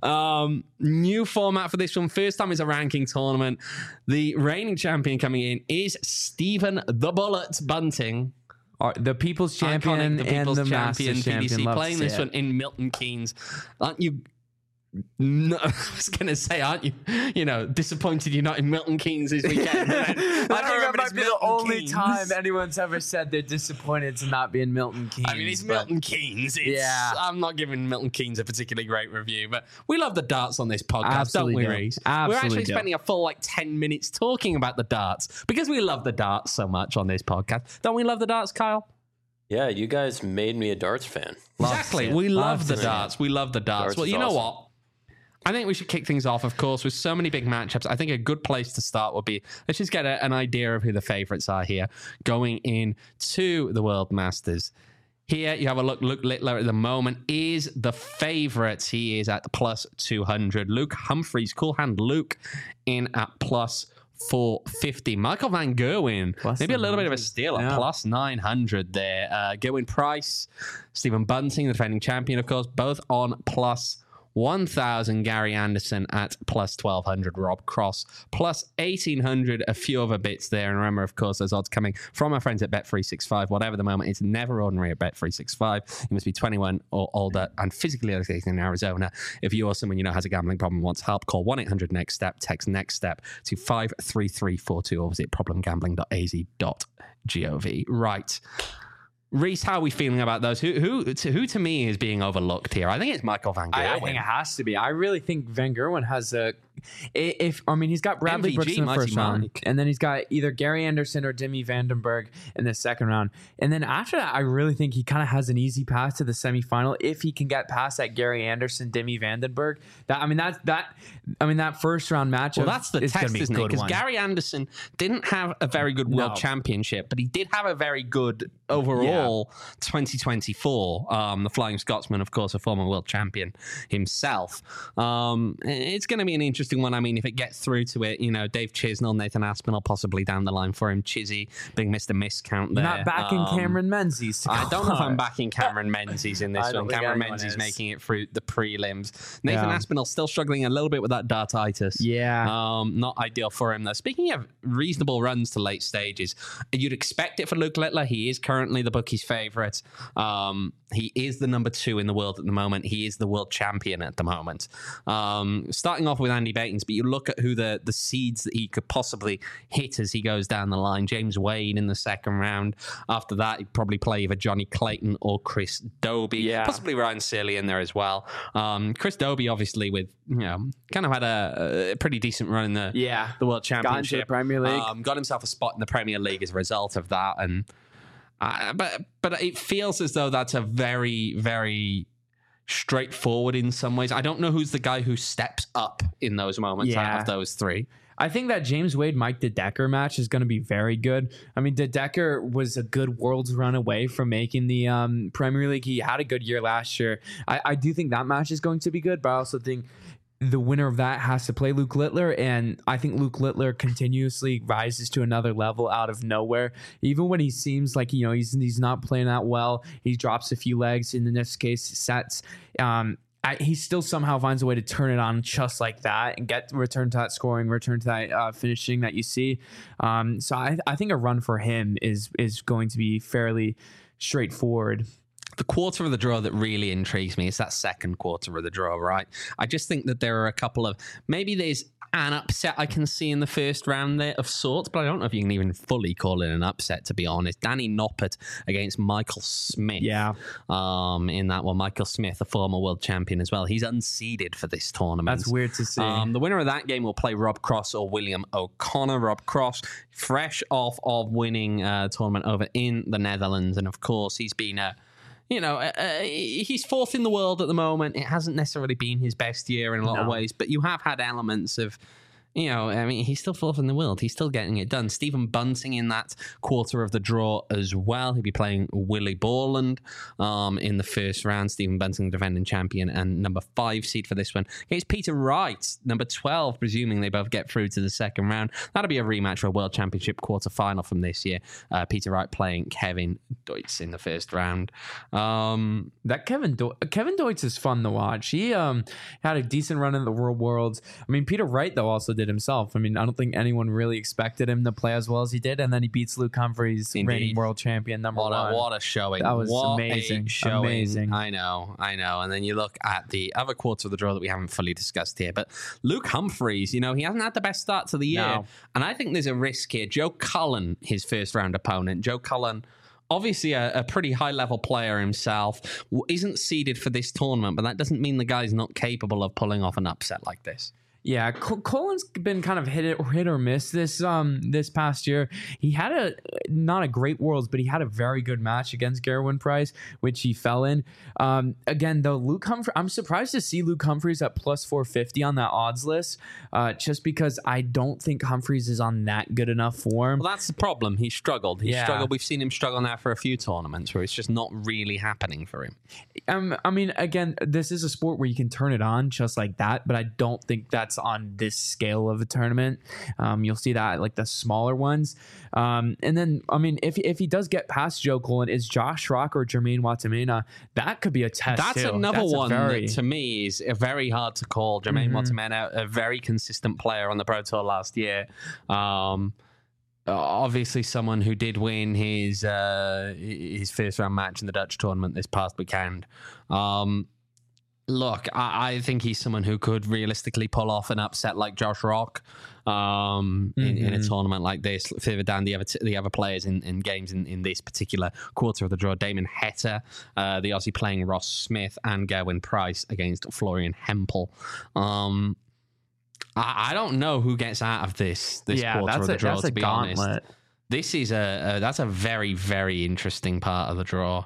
New format for this one. First time is a ranking tournament. The reigning champion coming in is Stephen the Bullet Bunting. The People's Champion and the Masters Champion. PDC playing this one in Milton Keynes. Aren't you... No, I was going to say, aren't you, disappointed you're not in Milton Keynes this weekend? I think that might be the only time anyone's ever said they're disappointed to not be in Milton Keynes. I mean, it's Milton Keynes. I'm not giving Milton Keynes a particularly great review, but we love the darts on this podcast, don't we, Reese? We're actually spending a full 10 minutes talking about the darts because we love the darts so much on this podcast. Don't we love the darts, Kyle? Yeah, you guys made me a darts fan. Exactly. We love the darts. We love the darts. Well, you know what? I think we should kick things off, of course, with so many big matchups. I think a good place to start would be, let's just get an idea of who the favorites are here going into the World Masters. Here you have a look. Luke Littler at the moment is the favorite. He is at plus 200. Luke Humphreys, cool hand Luke, in at plus 450. Michael Van Gerwen, maybe a little bit of a steal at plus 900 there. Gerwin Price, Stephen Bunting, the defending champion, of course, both on plus 1,000. Gary Anderson at plus 1,200. Rob Cross plus 1,800. A few other bits there. And remember, of course, those odds coming from our friends at Bet365. Whatever the moment, it's never ordinary at Bet365. You must be 21 or older and physically located in Arizona. If you or someone you know has a gambling problem and wants help, call 1-800-NEXT-STEP. Text NEXT STEP to 53342 or visit problemgambling.az.gov. Right. Reese, how are we feeling about those? Who to me is being overlooked here? I think it's Michael Van Gerwen. I think it has to be. I really think Van Gerwen has he's got Bradley MVG, Brooks in the first round, Mike. and then he's got either Gary Anderson or Demi Vandenberg in the second round. And then after that, I really think he kind of has an easy path to the semifinal if he can get past that Gary Anderson, Demi Vandenberg. That first round matchup. Well, that's the test, isn't it? Because Gary Anderson didn't have a very good world championship, but he did have a very good overall 2024. The Flying Scotsman, of course, a former world champion himself. It's going to be an interesting interesting one. I mean, if it gets through to it, Dave Chisnell, Nathan Aspinall possibly down the line for him. Chizzy, big Mr. Miscount there. Not backing Cameron Menzies. I don't know if I'm backing Cameron Menzies in this one. Cameron Menzies making it through the prelims. Nathan Aspinall still struggling a little bit with that dartitis. Yeah. Not ideal for him, though. Speaking of reasonable runs to late stages, you'd expect it for Luke Littler. He is currently the bookies' favourite. He is the number 2 in the world at the moment. He is the world champion at the moment. Starting off with Andy Baitens, but you look at who the seeds that he could possibly hit as he goes down the line. James Wade in the second round. After that, he'd probably play either Johnny Clayton or Chris Dobie. Possibly Ryan Searle in there as well. Chris Dobie, obviously, with kind of had a pretty decent run in the World Championship. Got into the Premier League. Got himself a spot in the Premier League as a result of that. And but it feels as though that's a very, very straightforward in some ways. I don't know who's the guy who steps up in those moments out of those three. I think that James Wade Mike De Decker match is going to be very good. I mean, De Decker was a good world's run away from making the Premier League. He had a good year last year. I do think that match is going to be good, but I also think the winner of that has to play Luke Littler, and I think Luke Littler continuously rises to another level out of nowhere. Even when he seems like he's not playing that well, he drops a few legs. In this case, sets. He still somehow finds a way to turn it on just like that and return to that scoring, return to that finishing that you see. So I think a run for him is going to be fairly straightforward. The quarter of the draw that really intrigues me is that second quarter of the draw, right? I just think that there are a couple of, maybe there's an upset I can see in the first round there of sorts, but I don't know if you can even fully call it an upset, to be honest. Danny Noppert against Michael Smith. Yeah. In that one, Michael Smith, a former world champion as well. He's unseeded for this tournament. That's weird to see. The winner of that game will play Rob Cross or William O'Connor. Rob Cross, fresh off of winning a tournament over in the Netherlands, and of course, he's been he's fourth in the world at the moment. It hasn't necessarily been his best year in a lot of ways, but you have had elements of, he's still fourth in the world. He's still getting it done. Stephen Bunting in that quarter of the draw as well. He'll be playing Willie Borland in the first round. Stephen Bunting, defending champion and number 5 seed for this one. Against Peter Wright, number 12, presuming they both get through to the second round. That'll be a rematch for a World Championship quarter final from this year. Peter Wright playing Kevin Deutz in the first round. That Kevin Deutz is fun to watch. He had a decent run in the Worlds. I mean, Peter Wright, though, also did himself. I mean, I don't think anyone really expected him to play as well as he did, and then he beats Luke Humphries, reigning world champion, number 1. What a showing. That was amazing. Amazing. I know. And then you look at the other quarter of the draw that we haven't fully discussed here, but Luke Humphries, he hasn't had the best start to the year. No. And I think there's a risk here. Joe Cullen, his first round opponent. Joe Cullen, obviously a pretty high-level player himself, isn't seeded for this tournament, but that doesn't mean the guy's not capable of pulling off an upset like this. Yeah, Colin's been kind of hit or miss this past year. He had not a great Worlds, but he had a very good match against Gerwyn Price, which he fell in. Again, though, Luke Humphries, I'm surprised to see Luke Humphries at plus 450 on that odds list, just because I don't think Humphries is on that good enough form. Well, that's the problem. He struggled. Struggled. We've seen him struggle now for a few tournaments where it's just not really happening for him. I mean, again, this is a sport where you can turn it on just like that, but I don't think that's on this scale of a tournament. You'll see that like the smaller ones. And then, I mean, if he does get past Joe Cullen, is Josh Rock or Jermaine Watamena, that could be a test. That's too. Another one that to me is very hard to call. Jermaine Watamena, a very consistent player on the Pro Tour last year. Obviously someone who did win his first round match in the Dutch tournament this past weekend. Look, I think he's someone who could realistically pull off an upset like Josh Rock in a tournament like this. Further down the other players in games in this particular quarter of the draw, Damon Heta, the Aussie playing Ross Smith, and Gerwyn Price against Florian Hempel. I don't know who gets out of this quarter of the draw, to be honest. This is that's a very, very interesting part of the draw.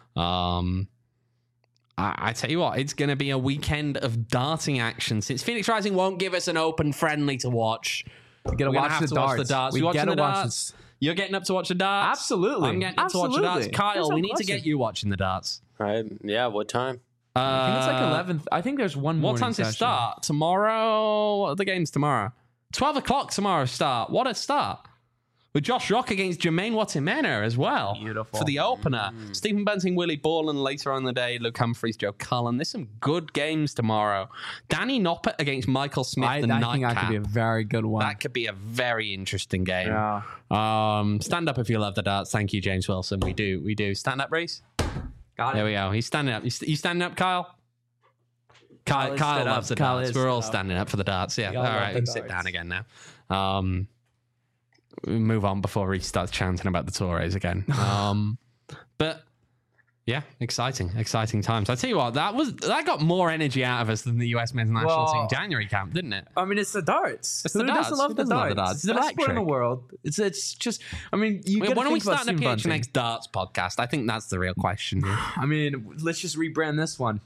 I tell you what, it's going to be a weekend of darting action. Since Phoenix Rising won't give us an open friendly to watch, we're going to watch the darts. You watching the darts? You're getting up to watch the darts? Absolutely. I'm getting up to watch the darts. Kyle, we need to get you watching the darts. All right. Yeah, what time? I think it's like 11th. I think there's one more. What time's it start? Tomorrow? What are the games tomorrow? 12 o'clock tomorrow start. What a start. With Josh Rock against Jermaine Watimena as well. Beautiful. For the opener. Stephen Bunting, Willie Borland later on in the day. Luke Humphries, Joe Cullen. There's some good games tomorrow. Danny Noppert against Michael Smith, the I nightcap. think that could be a very good one. That could be a very interesting game. Yeah. Stand up if you love the darts. Thank you, James Wilson. We do. Stand up, Reese. Got it. There we go. He's standing up. You standing up, Kyle? Kyle loves the darts. We're all standing up for the darts. Yeah. All right. We can sit down again now. Move on before he starts chanting about the Torres again. But yeah, exciting times. I tell you what, that got more energy out of us than the US men's national team January camp, didn't it? I mean, it's the darts. It's the darts. Who doesn't love the darts? It's the best sport in the world. It's just. I mean, why don't we start a PHNX darts podcast? I think that's the real question here. I mean, let's just rebrand this one.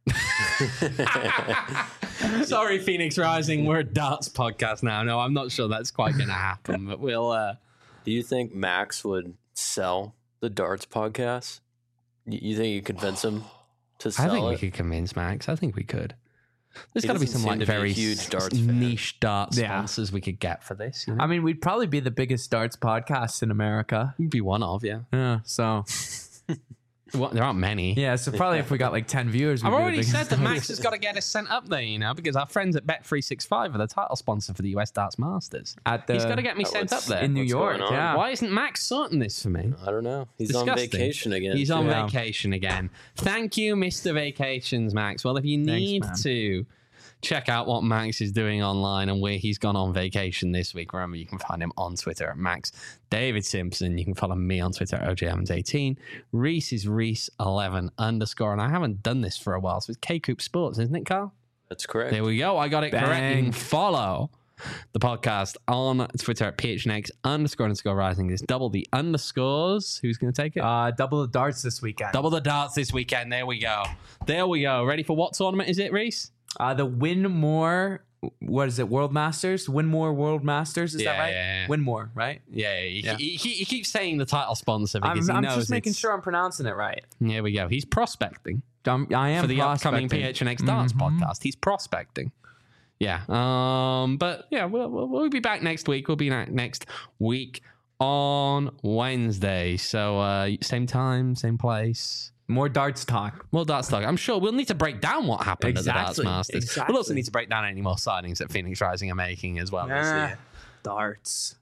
Sorry, Phoenix Rising. We're a darts podcast now. No, I'm not sure that's quite going to happen, but we'll. Do you think Max would sell the darts podcast? You think you convince him to sell it? I think we could convince Max. I think we could. There's got to be some like very huge darts niche darts sponsors we could get for this. You know? I mean, we'd probably be the biggest darts podcast in America. We'd be one of, yeah. Yeah. So. Well, there aren't many. Yeah, so probably if we got like 10 viewers, I've already said that Max has got to get us sent up there, you know, because our friends at Bet365 are the title sponsor for the US Darts Masters. He's got to get me sent up there. In New York, yeah. Why isn't Max sorting this for me? I don't know. He's Disgusting. on vacation again. He's on vacation again. Thank you, Mr. Vacations, Max. Well, if you need to check out what Max is doing online and where he's gone on vacation this week, remember you can find him on Twitter at Max David Simpson. You can follow me on Twitter at OJ18. Reese is Reese11 _ and I haven't done this for a while, so it's K-Coop Sports, isn't it, Carl? That's correct. There we go. I got it correct. You can follow the podcast on Twitter at PHNX _ rising. It's double the underscores. Who's going to take it? Double the darts this weekend. Double the darts this weekend. There we go. Ready for what tournament is it, Reese? The Winmore, what is it? World Masters? Winmore World Masters? Is that right? Yeah. Winmore, right? Yeah. He keeps saying the title sponsor because he knows I'm just making sure I'm pronouncing it right. There we go. He's prospecting. I am for the prospecting. upcoming PHNX Darts podcast. He's prospecting. Yeah. But yeah, we'll be back next week. We'll be back next week on Wednesday. So same time, same place. More darts talk. I'm sure we'll need to break down what happened at the Darts Masters. Exactly. We'll also need to break down any more signings that Phoenix Rising are making as well. Darts.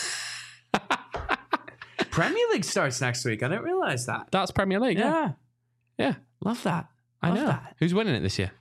Premier League starts next week. I didn't realize that. Darts Premier League. Yeah. Love that. I know. Who's winning it this year?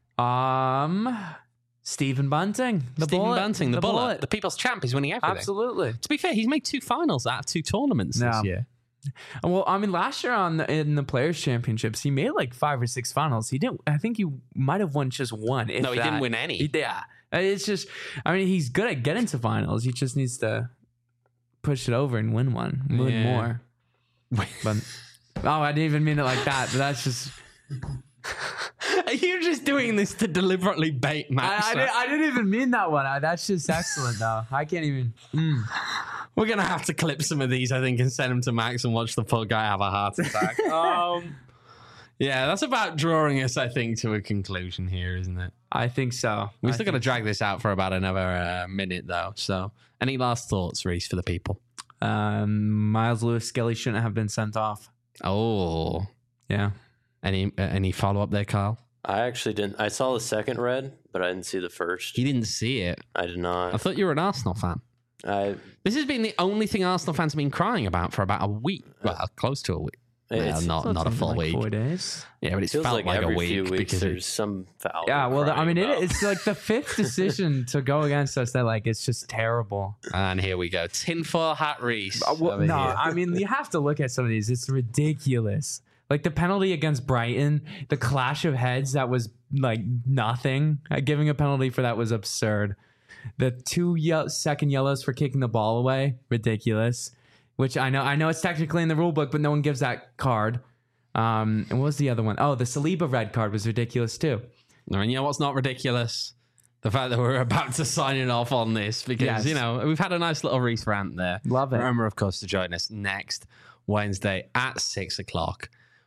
Stephen Bunting. The bullet. The people's champ is winning everything. Absolutely. To be fair, he's made 2 finals out of 2 tournaments this year. Well, I mean, last year in the Players Championships, he made like 5 or 6 finals. He didn't. I think he might have won just one. No, he didn't win any. It's just. I mean, he's good at getting to finals. He just needs to push it over and win more. But I didn't even mean it like that. But that's just. Are you just doing this to deliberately bait Max? I didn't even mean that one. That's just excellent, though. I can't even. We're going to have to clip some of these, I think, and send them to Max and watch the poor guy have a heart attack. Yeah, that's about drawing us, I think, to a conclusion here, isn't it? I think so. We're still going to drag this out for about another minute, though. So, any last thoughts, Reese, for the people? Miles Lewis Skelly shouldn't have been sent off. Oh. Yeah. Any follow-up there, Kyle? I actually didn't. I saw the second red, but I didn't see the first. You didn't see it? I did not. I thought you were an Arsenal fan. This has been the only thing Arsenal fans have been crying about for about a week. Well, close to a week. Not a full like week. 4 days. Yeah, but it felt like a every week few weeks because there's some foul. Yeah, well, I mean, it's like the 5th decision to go against us. That like it's just terrible. And here we go, tinfoil hat Reese. I mean, you have to look at some of these. It's ridiculous. Like the penalty against Brighton, the clash of heads that was like nothing. Giving a penalty for that was absurd. The 2 second yellows for kicking the ball away, ridiculous. Which I know it's technically in the rule book, but no one gives that card. And what was the other one? Oh, the Saliba red card was ridiculous too. And you know what's not ridiculous? The fact that we're about to sign it off on this because, you know, we've had a nice little Reese rant there. Love it. Remember, of course, to join us next Wednesday at 6 o'clock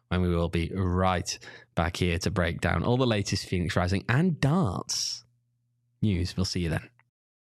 when we will be right back here to break down all the latest Phoenix Rising and darts news. We'll see you then.